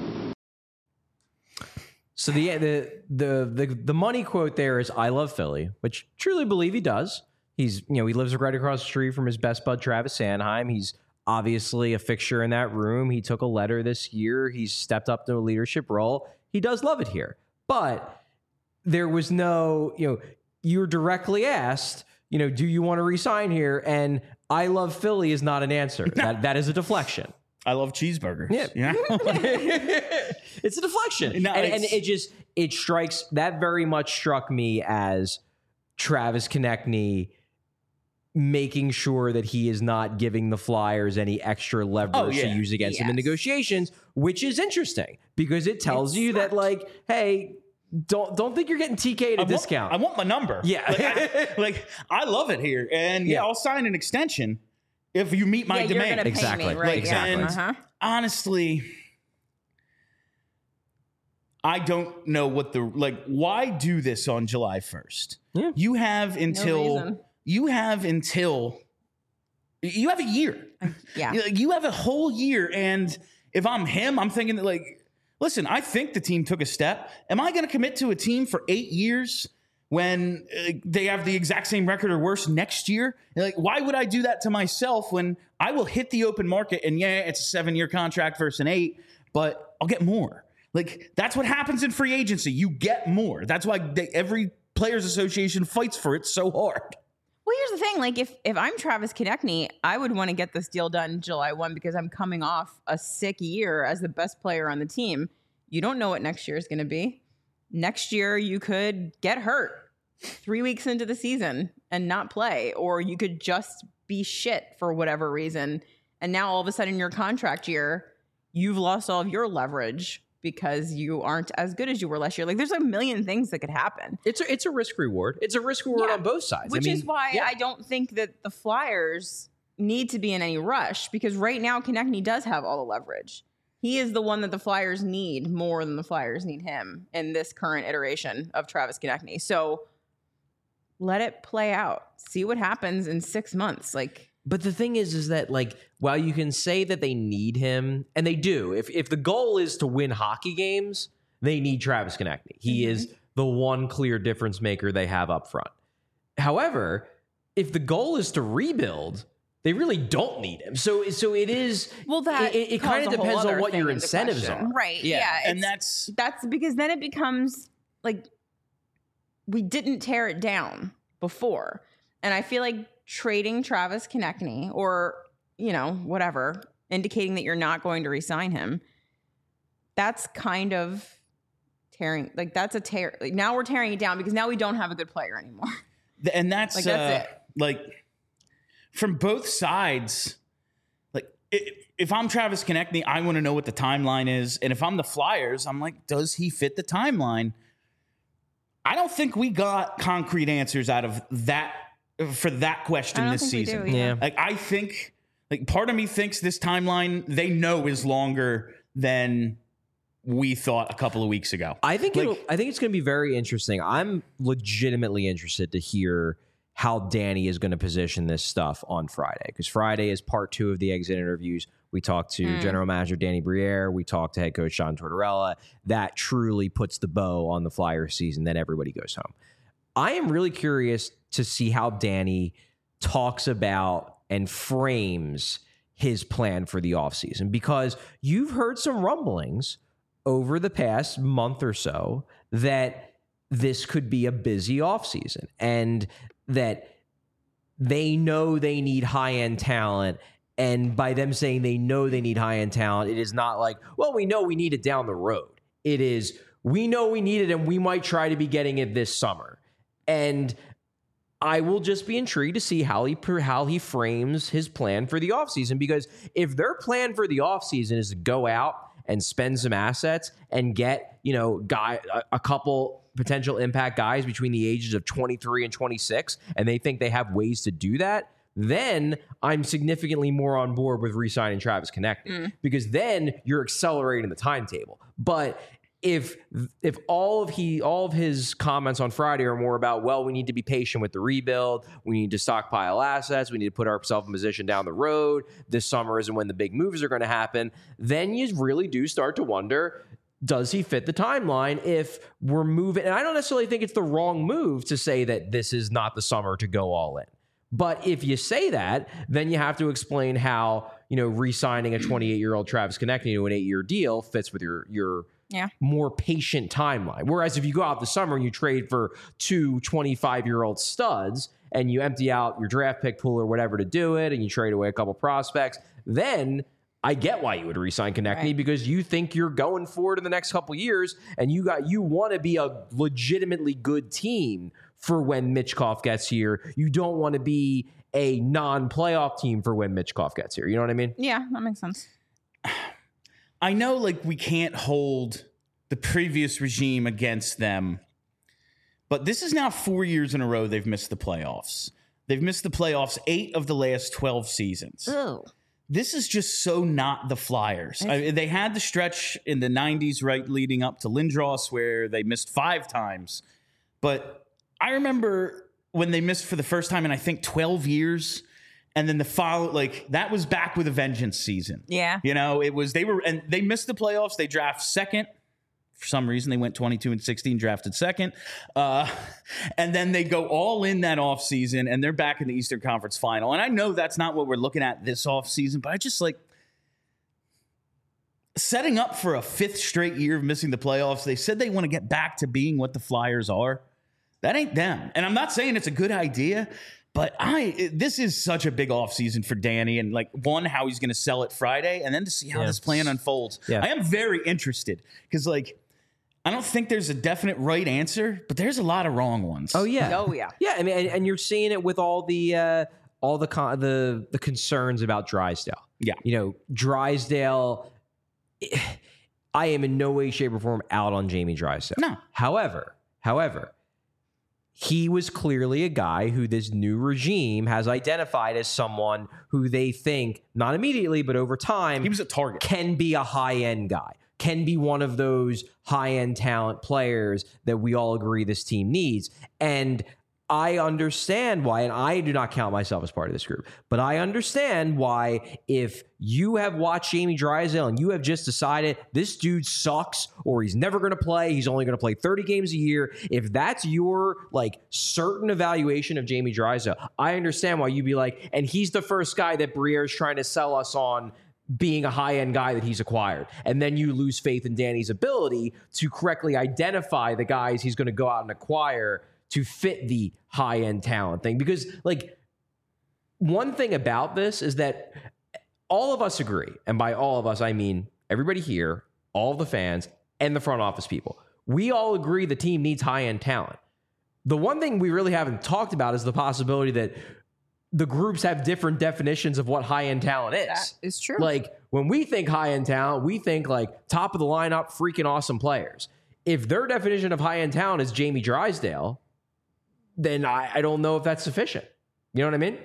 So the, the the the the money quote there is "I love Philly," which truly believe he does. He's you know he lives right across the street from his best bud Travis Sanheim. He's obviously a fixture in that room. He took a letter this year. He's stepped up to a leadership role. He does love it here, but there was no you know you were directly asked you know do you want to resign here, and "I love Philly" is not an answer. That that is a deflection. I love cheeseburgers. Yeah. You know? It's a deflection. No, and, it's- and it just, it strikes, that very much struck me as Travis Konechny making sure that he is not giving the Flyers any extra leverage Oh, to yeah. use against him in Yes. negotiations, which is interesting because it tells It's you that, smart. like, hey, don't don't think you're getting T K at a I want- discount. I want my number. Yeah. Like I, like, I love it here. And yeah, Yeah. I'll sign an extension if you meet my yeah, you're demand. gonna pay Exactly. me, right? Exactly. Yeah. Uh-huh. Honestly, I don't know what the like why do this on July first? Yeah. You have until reason. you have until you have a year. Yeah. You- You have a whole year, and if I'm him, I'm thinking that like, listen, I think the team took a step. Am I going to commit to a team for eight years when uh, they have the exact same record or worse next year? Like, why would I do that to myself when I will hit the open market and yeah, it's a seven-year contract versus an eight, but I'll get more. Like, that's what happens in free agency. You get more. That's why they, every players association fights for it so hard. Well, here's the thing. Like, if if I'm Travis Konechny, I would want to get this deal done July first because I'm coming off a sick year as the best player on the team. You don't know what next year is going to be. Next year, you could get hurt three weeks into the season and not play, or you could just be shit for whatever reason. And now all of a sudden, your contract year, you've lost all of your leverage because you aren't as good as you were last year. Like, there's a million things that could happen. It's a, it's a risk reward. It's a risk reward Yeah. on both sides. Which I mean, is why yeah. I don't think that the Flyers need to be in any rush, because right now Konechny does have all the leverage. He is the one that the Flyers need more than the Flyers need him in this current iteration of Travis Konechny. So let it play out. See what happens in six months. Like, But the thing is, is that like while you can say that they need him, and they do, if if the goal is to win hockey games, they need Travis Konechny. He Mm-hmm. is the one clear difference maker they have up front. However, if the goal is to rebuild, they really don't need him. So so it is. well, that it, it calls kind of a whole depends on other what thing your into incentives question. are. Right. Yeah, Yeah. and it's- that's That's because then it becomes like we didn't tear it down before. And I feel like trading Travis Konechny or, you know, whatever, indicating that you're not going to resign him that's kind of tearing, like that's a tear. Like now we're tearing it down because now we don't have a good player anymore. And that's, Like, that's uh, it. like from both sides. Like i- if I'm Travis Konechny, I want to know what the timeline is. And if I'm the Flyers, I'm like, does he fit the timeline? I don't think we got concrete answers out of that for that question I don't this think we season. do, yeah. Yeah. Like I think, like part of me thinks this timeline they know is longer than we thought a couple of weeks ago. I think Like- it'll, I think it's going to be very interesting. I'm legitimately interested to hear how Danny is going to position this stuff on Friday, because Friday is part two of the exit interviews. We talked to General Manager Danny Briere. We talked to head coach John Tortorella. That truly puts the bow on the Flyers season. Then everybody goes home. I am really curious to see how Danny talks about and frames his plan for the offseason, because you've heard some rumblings over the past month or so that this could be a busy offseason and that they know they need high-end talent. And by them saying they know they need high-end talent, it is not like, well, we know we need it down the road. It is, we know we need it and we might try to be getting it this summer. And I will just be intrigued to see how he how he frames his plan for the offseason, because if their plan for the offseason is to go out and spend some assets and get, you know, guy a, a couple potential impact guys between the ages of twenty-three and twenty-six, and they think they have ways to do that, then I'm significantly more on board with re-signing Travis Konechny, mm. because then you're accelerating the timetable. But if if all of he all of his comments on Friday are more about, well, we need to be patient with the rebuild, we need to stockpile assets, we need to put ourselves in position down the road, this summer isn't when the big moves are going to happen, then you really do start to wonder, does he fit the timeline if we're moving? And I don't necessarily think it's the wrong move to say that this is not the summer to go all in. But if you say that, then you have to explain how, you know, re-signing a twenty-eight-year-old Travis Konechny to an eight-year deal fits with your your yeah. more patient timeline. Whereas if you go out the summer and you trade for two twenty-five-year-old studs and you empty out your draft pick pool or whatever to do it and you trade away a couple prospects, then I get why you would re-sign Konechny, right, because you think you're going forward in the next couple years and you got you want to be a legitimately good team for when Michkov gets here. You don't want to be a non-playoff team for when Michkov gets here. You know what I mean? Yeah, that makes sense. I know, like, we can't hold the previous regime against them, but this is now four years in a row they've missed the playoffs. They've missed the playoffs eight of the last twelve seasons. Ooh. This is just so not the Flyers. I, they had the stretch in the nineties, right, leading up to Lindros, where they missed five times. But I remember when they missed for the first time in, I think, twelve years. And then the follow, like, that was back with a vengeance season. Yeah. You know, it was, they were, and they missed the playoffs. They draft second. For some reason, they went twenty-two and sixteen, drafted second. Uh, and then they go all in that offseason, and they're back in the Eastern Conference Final. And I know that's not what we're looking at this offseason, but I just, like, setting up for a fifth straight year of missing the playoffs. They said they want to get back to being what the Flyers are. That ain't them. And I'm not saying it's a good idea, but I this is such a big offseason for Danny, and, like, one, how he's going to sell it Friday, and then to see how yeah. this plan unfolds. Yeah. I am very interested because, like, I don't think there's a definite right answer, but there's a lot of wrong ones. Oh yeah, Oh yeah, yeah. I mean, and, and you're seeing it with all the uh, all the con- the the concerns about Drysdale. Yeah. You know, Drysdale. I am in no way, shape, or form out on Jamie Drysdale. No. However, however, he was clearly a guy who this new regime has identified as someone who they think, not immediately, but over time, He was a target. can be a high-end guy, can be one of those high-end talent players that we all agree this team needs. And I understand why, and I do not count myself as part of this group, but I understand why if you have watched Jamie Drysdale and you have just decided this dude sucks or he's never going to play, he's only going to play thirty games a year, if that's your, like, certain evaluation of Jamie Drysdale, I understand why you'd be like, and he's the first guy that Briere is trying to sell us on being a high-end guy that he's acquired. And then you lose faith in Danny's ability to correctly identify the guys he's going to go out and acquire to fit the high-end talent thing. Because, like, one thing about this is that all of us agree, and by all of us, I mean everybody here, all the fans, and the front office people. We all agree the team needs high-end talent. The one thing we really haven't talked about is the possibility that the groups have different definitions of what high-end talent is. That is true. Like, when we think high-end talent, we think like top of the lineup, freaking awesome players. If their definition of high-end talent is Jamie Drysdale, then I, I don't know if that's sufficient. You know what I mean?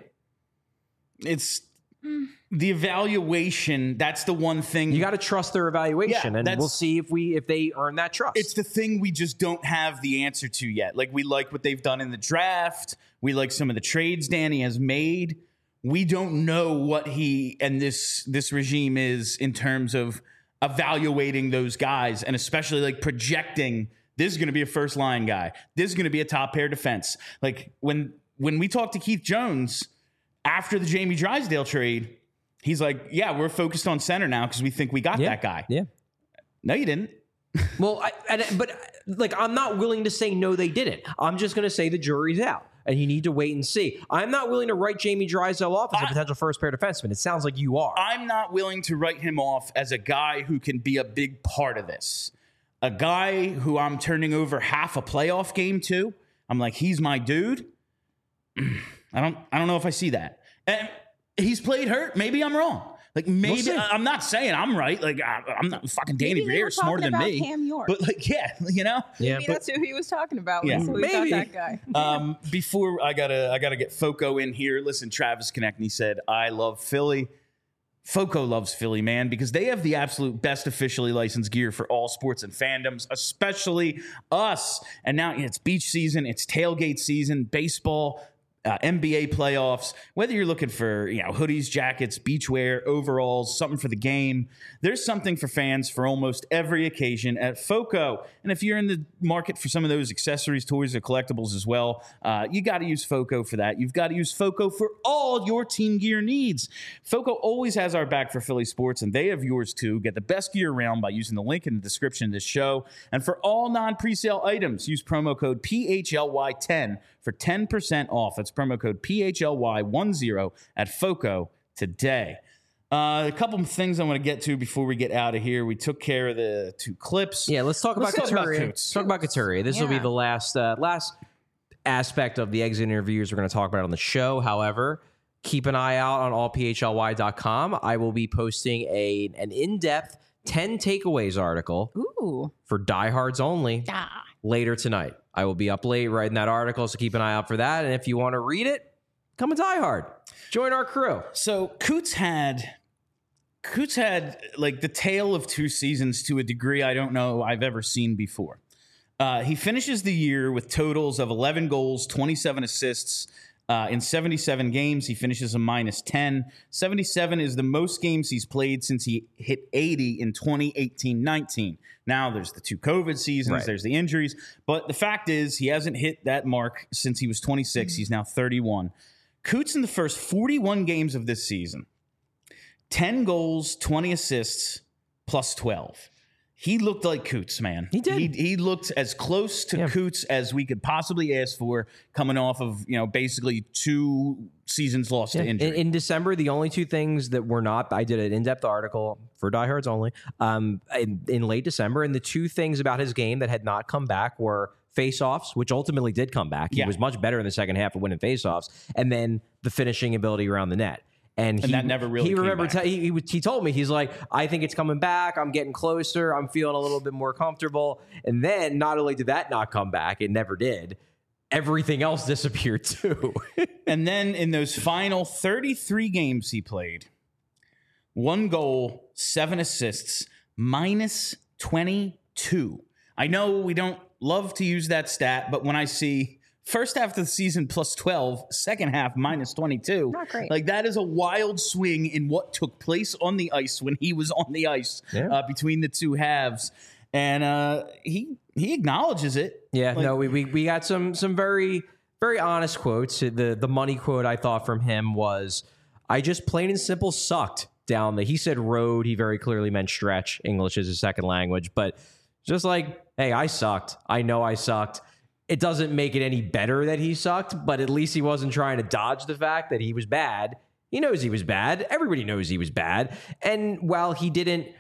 It's the evaluation. That's the one thing. You got to trust their evaluation, Yeah, and that's- we'll see if we if they earn that trust. It's the thing we just don't have the answer to yet. Like, we like what they've done in the draft. We like some of the trades Danny has made. We don't know what he and this this regime is in terms of evaluating those guys, and especially like projecting this is going to be a first line guy. This is going to be a top pair defense. Like, when when we talked to Keith Jones after the Jamie Drysdale trade, he's like, yeah, we're focused on center now because we think we got yeah, that guy. Yeah. No, you didn't. Well, I, and, but like, I'm not willing to say no, they didn't. I'm just going to say the jury's out, and you need to wait and see. I'm not willing to write Jamie Drysdale off as a I- potential first pair defenseman. It sounds like you are. I'm not willing to write him off as a guy who can be a big part of this. A guy who I'm turning over half a playoff game to. I'm like, he's my dude. I don't I don't know if I see that. And he's played hurt. Maybe I'm wrong. Like, maybe see. I- I'm not saying I'm right. Like, I, I'm not fucking Danny Maybe they Briere were smarter talking than about me. Cam York. But like, yeah, you know. yeah, Maybe that's who he was talking about. Yeah. Yeah. So we Maybe. got that guy. Um, before I gotta I gotta get Foco in here. Listen, Travis Konechny said, I love Philly. Foco loves Philly, man, because they have the absolute best officially licensed gear for all sports and fandoms, especially us. And now it's beach season, it's tailgate season, baseball, uh, N B A playoffs. Whether you're looking for, you know, hoodies, jackets, beachwear, overalls, something for the game, there's something for fans for almost every occasion at Foco. And if you're in the market for some of those accessories, toys, or collectibles as well, uh, you got to use Foco for that. You've got to use Foco for all your team gear needs. Foco always has our back for Philly sports, and they have yours too. Get the best gear around by using the link in the description of this show. And for all non-presale items, use promo code P H L Y ten for ten percent off. That's promo code P H L Y ten at Foco today. Uh, a couple of things I want to get to before we get out of here. We took care of the two clips. Yeah, let's talk Let's about talk about Couturier. Coots. Let's talk about Couturier. This will be Yeah. the last uh, last aspect of the exit interviews we're going to talk about on the show. However, keep an eye out on all p h l y dot com. I will be posting a an in-depth ten takeaways article Ooh. for diehards only Ah. later tonight. I will be up late writing that article, so keep an eye out for that. And if you want to read it, come a diehard. Join our crew. So Coots had Coots had like the tale of two seasons to a degree I don't know I've ever seen before. Uh, he finishes the year with totals of eleven goals, twenty-seven assists uh, in seventy-seven games. He finishes a minus ten. seventy-seven is the most games he's played since he hit eighty in twenty eighteen nineteen. Now there's the two COVID seasons, Right. there's the injuries, but the fact is he hasn't hit that mark since he was twenty-six. He's now thirty-one. Coots in the first forty-one games of this season, ten goals, twenty assists, plus twelve. He looked like Coots, man. He did. He, he looked as close to Yeah. Coots as we could possibly ask for, coming off of, you know, basically two seasons lost to In, injury. in December, the only two things that were not, I did an in-depth article for diehards only um, in, in late December, and the two things about his game that had not come back were face-offs, which ultimately did come back. He Yeah. was much better in the second half of winning face-offs, and then the finishing ability around the net. And, he, that never really he came remembered. back. Te- he, he was- he told me, he's like, I think it's coming back. I'm getting closer. I'm feeling a little bit more comfortable. And then not only did that not come back, it never did. Everything else disappeared too. And then in those final thirty-three games he played, one goal, seven assists, minus twenty-two. I know we don't love to use that stat, but when I see first half of the season plus twelve, second half minus twenty-two, Not great. like that is a wild swing in what took place on the ice when he was on the ice Yeah. uh, between the two halves. And uh, he he acknowledges it. Yeah, Like, no, we, we we got some some very very honest quotes. The the money quote I thought from him was, "I just plain and simple sucked down the." He said road. He very clearly meant stretch. English is his second language, but just like, hey, I sucked. I know I sucked. It doesn't make it any better that he sucked, but at least he wasn't trying to dodge the fact that he was bad. He knows he was bad. Everybody knows he was bad. And while he didn't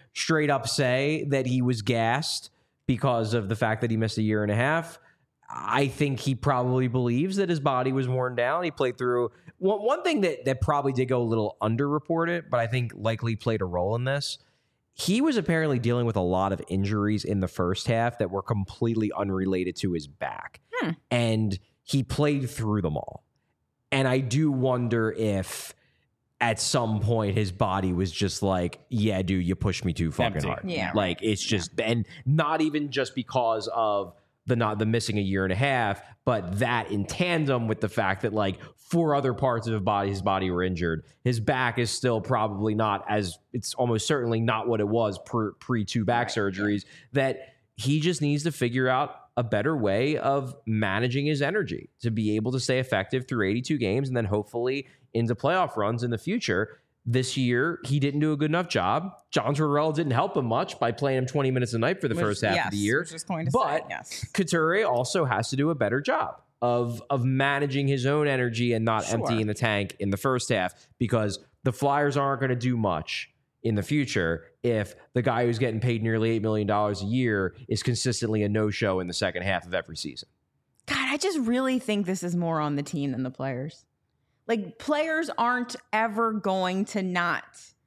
straight up say that he was gassed because of the fact that he missed a year and a half. I think he probably believes that his body was worn down. He played through one, one thing that, that probably did go a little underreported, but I think likely played a role in this. He was apparently dealing with a lot of injuries in the first half that were completely unrelated to his back. Hmm. And he played through them all. And I do wonder if at some point his body was just like, yeah, dude, you pushed me too fucking Empty. hard. Yeah. Like it's just, yeah. And not even just because of the not the missing a year and a half, but that in tandem with the fact that like four other parts of his body, his body were injured. His back is still probably not as, it's almost certainly not what it was pre, pre two back right. surgeries, that he just needs to figure out a better way of managing his energy to be able to stay effective through eighty-two games and then hopefully into playoff runs in the future. This year, he didn't do a good enough job. John Tortorella didn't help him much by playing him twenty minutes a night for the Which, first half yes, of the year. was just going to but say, yes. Couturier also has to do a better job of, of managing his own energy and not Sure. emptying the tank in the first half, because the Flyers aren't going to do much in the future if the guy who's getting paid nearly eight million dollars a year is consistently a no-show in the second half of every season. God, I just really think this is more on the team than the players. Like, players aren't ever going to not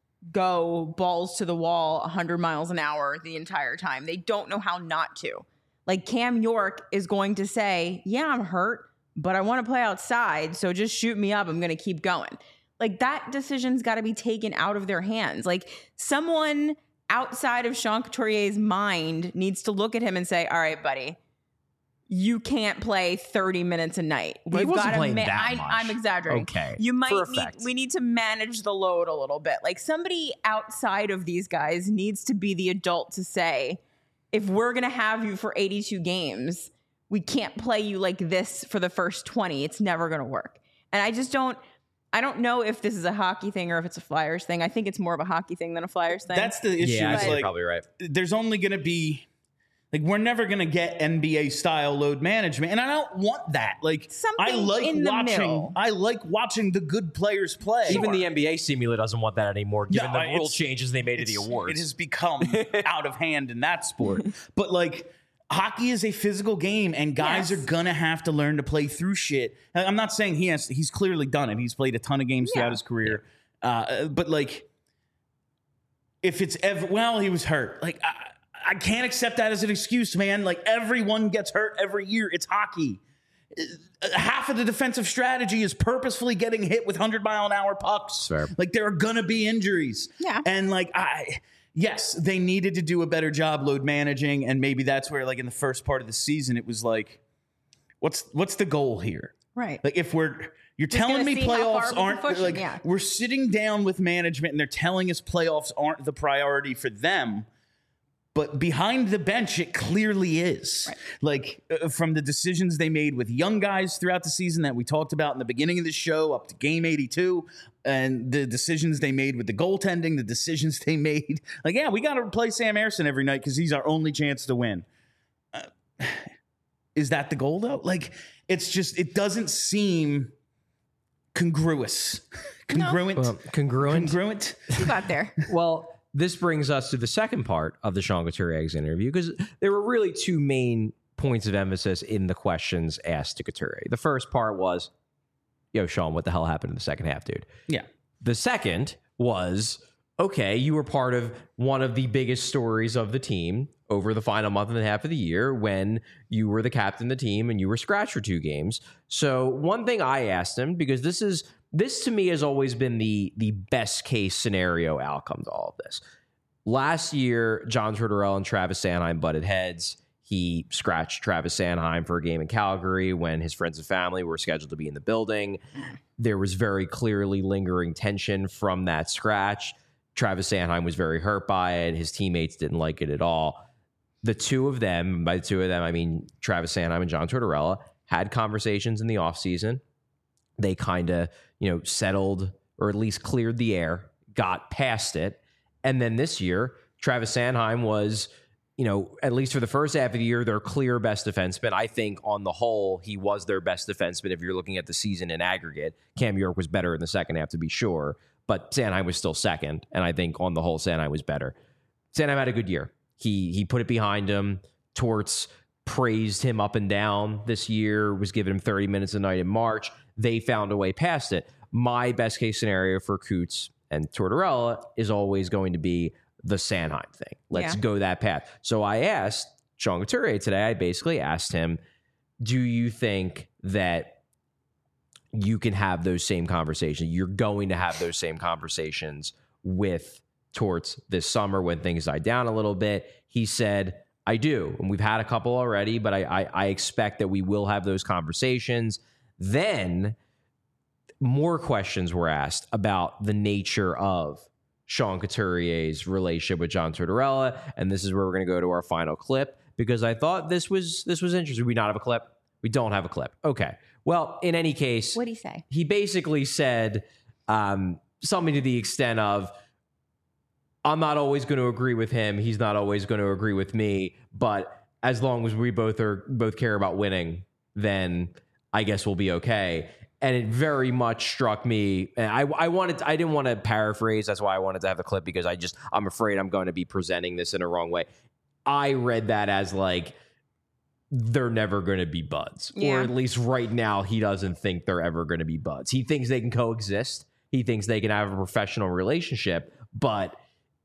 go balls to the wall one hundred miles an hour the entire time. They don't know how not to. Like, Cam York is going to say, yeah, I'm hurt, but I want to play outside, so just shoot me up. I'm going to keep going. Like, that decision's got to be taken out of their hands. Like, someone outside of Sean Couturier's mind needs to look at him and say, all right, buddy, you can't play thirty minutes a night. Well, he We've wasn't got playing ma- that I, much. I'm exaggerating. Okay. You might For need, effect. we need to manage the load a little bit. Like, somebody outside of these guys needs to be the adult to say, if we're going to have you for eighty-two games, we can't play you like this for the first twenty. It's never going to work. And I just don't, I don't know if this is a hockey thing or if it's a Flyers thing. I think it's more of a hockey thing than a Flyers thing. That's the issue. Yeah, I is think like, you're probably right. There's only going to be, like, we're never going to get N B A style load management. And I don't want that. Like, Something I like in the watching, middle. I like watching the good players play. Even the N B A simulator doesn't want that anymore, given No, the rule it's- changes they made to the It's- awards. It has become out of hand in that sport. But like, hockey is a physical game, and guys Yes. are gonna have to learn to play through shit. And I'm not saying he has. He's clearly done it. He's played a ton of games Yeah. throughout his career. Uh, but like, if it's ever well, he was hurt. Like, I, I can't accept that as an excuse, man. Like, everyone gets hurt every year. It's hockey. Uh, Half of the defensive strategy is purposefully getting hit with one hundred mile an hour pucks. Fair. Like, there are gonna be injuries. Yeah. And like, I. Yes, they needed to do a better job load managing, and maybe that's where, like, in the first part of the season, it was like, what's what's the goal here? right. Like, if we're you're Just telling gonna me see how far we playoffs can aren't push 'em, like yeah. we're sitting down with management and they're telling us playoffs aren't the priority for them, but behind the bench it clearly is. Right. Like, uh, from the decisions they made with young guys throughout the season that we talked about in the beginning of the show up to game eighty-two, and the decisions they made with the goaltending, the decisions they made. Like, yeah, we got to play Sam Ersson every night because he's our only chance to win. Uh, is that the goal, though? Like, it's just, it doesn't seem congruous. Congruent. Well, congruent. Congruent. You got there. Well, this brings us to the second part of the Sean Couturier interview, because there were really two main points of emphasis in the questions asked to Couturier. The first part was, yo, Sean, what the hell happened in the second half, dude? Yeah. The second was, okay, you were part of one of the biggest stories of the team over the final month and a half of the year when you were the captain of the team and you were scratched for two games. So one thing I asked him, because this is this to me has always been the the best case scenario outcome to all of this. Last year, John Tortorella and Travis Sanheim butted heads. He scratched Travis Sanheim for a game in Calgary when his friends and family were scheduled to be in the building. There was very clearly lingering tension from that scratch. Travis Sanheim was very hurt by it. His teammates didn't like it at all. The two of them, by the two of them, I mean Travis Sanheim and John Tortorella, had conversations in the offseason. They kind of, you know, settled or at least cleared the air, got past it. And then this year, Travis Sanheim was, you know, at least for the first half of the year, their clear best defenseman. I think on the whole, he was their best defenseman if you're looking at the season in aggregate. Cam York was better in the second half, to be sure, but Sanheim was still second. And I think on the whole, Sanheim was better. Sanheim had a good year. He he put it behind him. Torts praised him up and down this year, was giving him thirty minutes a night in March. They found a way past it. My best case scenario for Coots and Tortorella is always going to be the Sanheim thing. Let's Yeah. go that path. So I asked Sean Couturier today, I basically asked him, do you think that you can have those same conversations? You're going to have those same conversations with Torts this summer when things die down a little bit. He said, I do. And we've had a couple already, but I, I, I expect that we will have those conversations. Then more questions were asked about the nature of Sean Couturier's relationship with John Tortorella. And this is where we're going to go to our final clip, because I thought this was this was interesting. We not have a clip? We don't have a clip. Okay. Well, in any case, What'd he say? he basically said um, something to the extent of, I'm not always going to agree with him. He's not always going to agree with me. But as long as we both are both care about winning, then I guess we'll be okay. And it very much struck me. And I, I wanted, to, I didn't want to paraphrase. That's why I wanted to have the clip, because I just, I'm afraid I'm going to be presenting this in a wrong way. I read that as like, they're never going to be buds, Yeah. or at least right now, he doesn't think they're ever going to be buds. He thinks they can coexist. He thinks they can have a professional relationship, but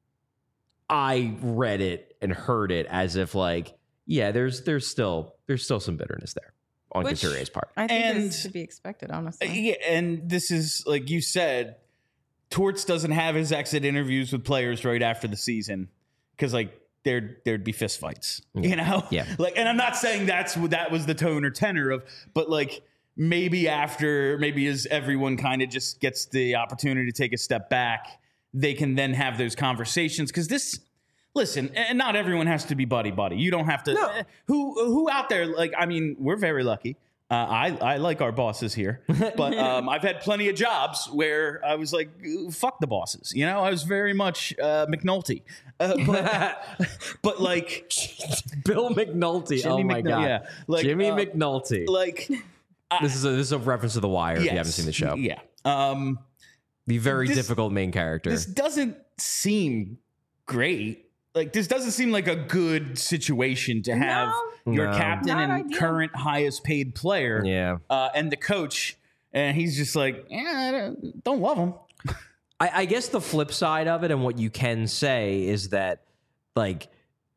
I read it and heard it as if like, yeah, there's, there's still, there's still some bitterness there on Which- Couturier's part. I think And- this should be expected, honestly. Yeah, and this is like you said, Torts doesn't have his exit interviews with players right after the season because like there'd there'd be fistfights, you know. Yeah. Like, and I'm not saying that's what that was the tone or tenor of, but like maybe after, maybe as everyone kind of just gets the opportunity to take a step back, they can then have those conversations. Because this, listen, and not everyone has to be buddy buddy. You don't have to. No. eh, Who who out there? Like, I mean, we're very lucky. Uh, I I like our bosses here, but um, I've had plenty of jobs where I was like, fuck the bosses. You know, I was very much uh, McNulty, uh, but, but like Bill McNulty. Jimmy oh my McNulty, god, yeah. Like, Jimmy uh, McNulty. like this is a, this is a reference to The Wire. If you haven't yes, seen the show, yeah. Um, the very This- difficult main character. this doesn't seem great. Like, this doesn't seem like a good situation to have No. your No. captain Not and ideal. current highest paid player, yeah, uh, and the coach, and he's just like, yeah, I don't, don't love him. I, I guess the flip side of it, and what you can say is that like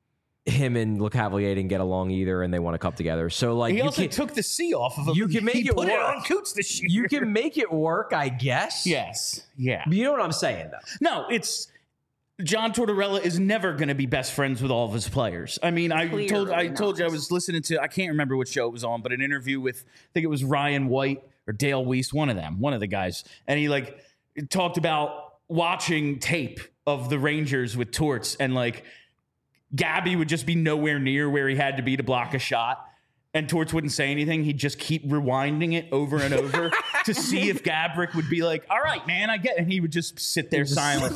him and LeCavalier didn't get along either, and they won a cup together. So like He you also can took the C off of him. you can make he it put work. it on Coots this year. you can make it work, I guess. yes, yeah. But you know what I'm saying though. No, it's John Tortorella is never going to be best friends with all of his players. I mean, I Clearly told I told you I not. was listening to I can't remember which show it was on, but an interview with I think it was Ryan White or Dale Weiss, one of them, one of the guys, and he like talked about watching tape of the Rangers with Torts, and like Gabby would just be nowhere near where he had to be to block a shot. And Torts wouldn't say anything. He'd just keep rewinding it over and over to see if Gabrick would be like, all right, man, I get it. And he would just sit there silent,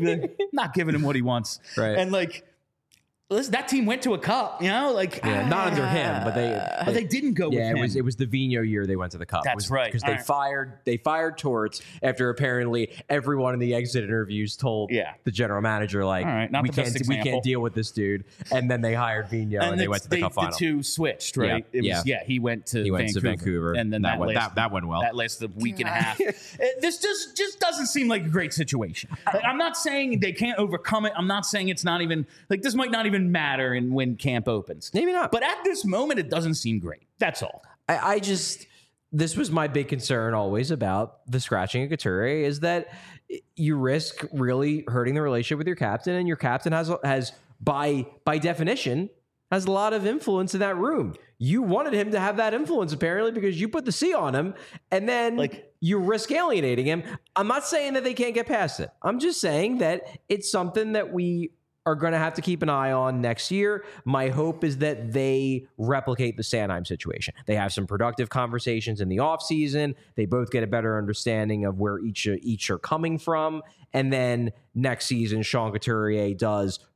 not giving him what he wants. Right. And like, listen, that team went to a cup, you know, like, Yeah, not under him, but they. but they didn't go Yeah, with it him. was it was the Vigneault year they went to the cup. That's It was- right. because they All right. fired they fired Torts after apparently everyone in the exit interviews told Yeah. the general manager like All right, not we the can't best we example. can't deal with this dude, and then they hired Vigneault and, they the, went to the they- cup final. The two switched, right? Yeah, It was, yeah. yeah. He went to He went to Vancouver, Vancouver, and then that that, went- lasted, that- that went well. That lasted a week and a half. Uh, this just just doesn't seem like a great situation. Like, I'm not saying they can't overcome it. I'm not saying it's not even like this might not even matter in when camp opens. Maybe not. But at this moment, it doesn't seem great. That's all. I, I just this was my big concern always about the scratching of Couturier is that you risk really hurting the relationship with your captain, and your captain has has by by definition has a lot of influence in that room. You wanted him to have that influence apparently because you put the C on him, and then Like- you risk alienating him. I'm not saying that they can't get past it. I'm just saying that it's something that we are going to have to keep an eye on next year. My hope is that they replicate the Sanheim situation. They have some productive conversations in the offseason. They both get a better understanding of where each each are coming from. And then next season, Sean Couturier does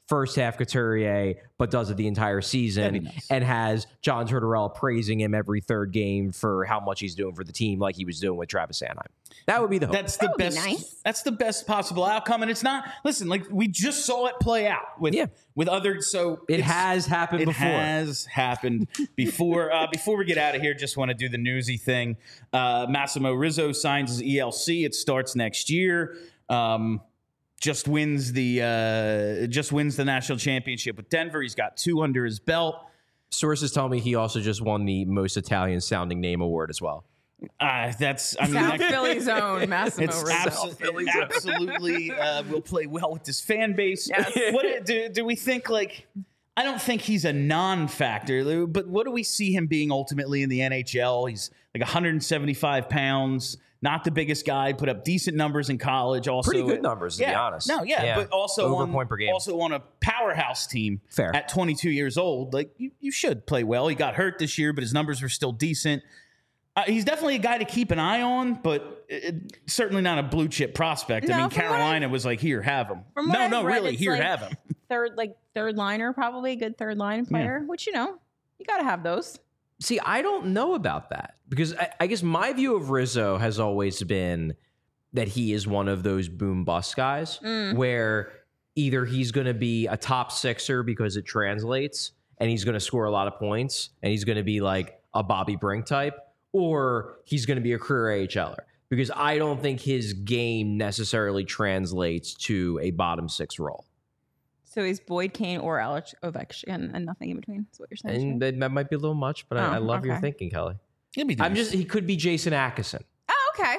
first half Couturier, but does it the entire season, nice. and has John Tortorella praising him every third game for how much he's doing for the team, like he was doing with Travis Sanheim. That would be the hope. That's the That would be best. nice. That's the best possible outcome, and it's not. Listen, like we just saw it play out with Yeah. with other. So it it's- has happened It before. has happened before. Uh, before we get out of here, just want to do the newsy thing. Uh, Massimo Rizzo signs his E L C. It starts next year. Um, just wins the uh, just wins the national championship with Denver. He's got two under his belt. Sources tell me he also just won the most Italian sounding name award as well. Uh, that's I mean South that, Philly's own Massimo it's Rizzo. abso- it absolutely uh, will play well with this fan base. Yes. What do, do we think? Like, I don't think he's a non-factor, but what do we see him being ultimately in the N H L? He's like one hundred seventy-five pounds. Not the biggest guy, put up decent numbers in college. Also, Pretty good numbers, to yeah, be honest. No, yeah, Yeah. but also Over on, point per game. also on a powerhouse team. Fair. At twenty-two years old, like you, you should play well. He got hurt this year, but his numbers were still decent. Uh, he's definitely a guy to keep an eye on, but it, certainly not a blue chip prospect. No, I mean, from what Carolina was like, here, have him. From what No, I've no, read, really, it's here, like have him. Third, like third liner, probably a good third line player. Which you know, you got to have those. See, I don't know about that because I, I guess my view of Rizzo has always been that he is one of those boom bust guys where either he's going to be a top sixer because it translates and he's going to score a lot of points and he's going to be like a Bobby Brink type, or he's going to be a career A H L er because I don't think his game necessarily translates to a bottom six role. So he's Boyd, Kane, or Alex Ovechkin, and nothing in between. That's what you're saying. And right? that, that might be a little much, but Oh, I, I love your okay. thinking, Kelly. He'll be I'm decent. just, he could be Jason Atkinson. Oh, okay.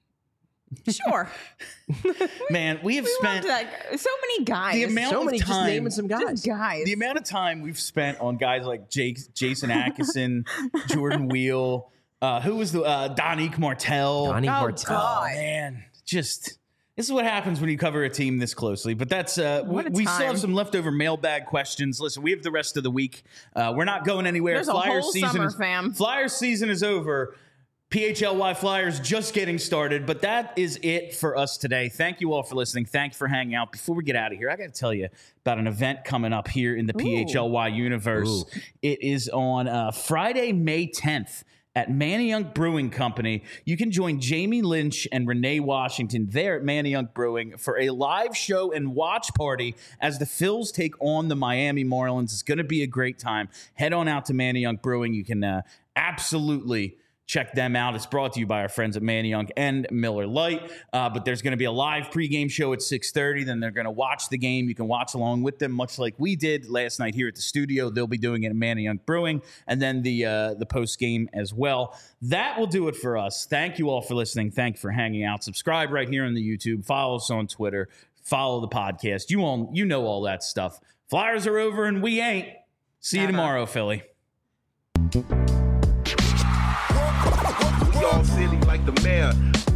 Sure. Man, we have We spent loved that. So many guys. the amount So of many, just time. naming some guys. Just guys. The amount of time we've spent on guys like Jake, Jason Atkinson, Jordan Wheel, uh, who was the uh, Donique Martel. Donnie Oh, Martel. God. Oh, man, just this is what happens when you cover a team this closely. But that's uh, we, What a we still have time. some leftover mailbag questions. Listen, we have the rest of the week. Uh, we're not going anywhere. There's a Flyers whole season summer, is, fam. Flyers season is over. P H L Y Flyers just getting started, but that is it for us today. Thank you all for listening. Thank you for hanging out. Before we get out of here, I got to tell you about an event coming up here in the P H L Y universe. Ooh. It is on uh, Friday, May tenth. At Manayunk Brewing Company. You can join Jamie Lynch and Renee Washington there at Manayunk Brewing for a live show and watch party as the Phils take on the Miami Marlins. It's going to be a great time. Head on out to Manayunk Brewing. You can uh, absolutely check them out. It's brought to you by our friends at Manayunk and Miller Lite. Uh, but there's going to be a live pregame show at six thirty. Then they're going to watch the game. You can watch along with them, much like we did last night here at the studio. They'll be doing it at Manayunk Brewing, and then the uh, the post game as well. That will do it for us. Thank you all for listening. Thank you for hanging out. Subscribe right here on the YouTube. Follow us on Twitter. Follow the podcast. You all, you know all that stuff. Flyers are over, and we ain't. See you Ever. tomorrow, Philly. We all silly like the mayor.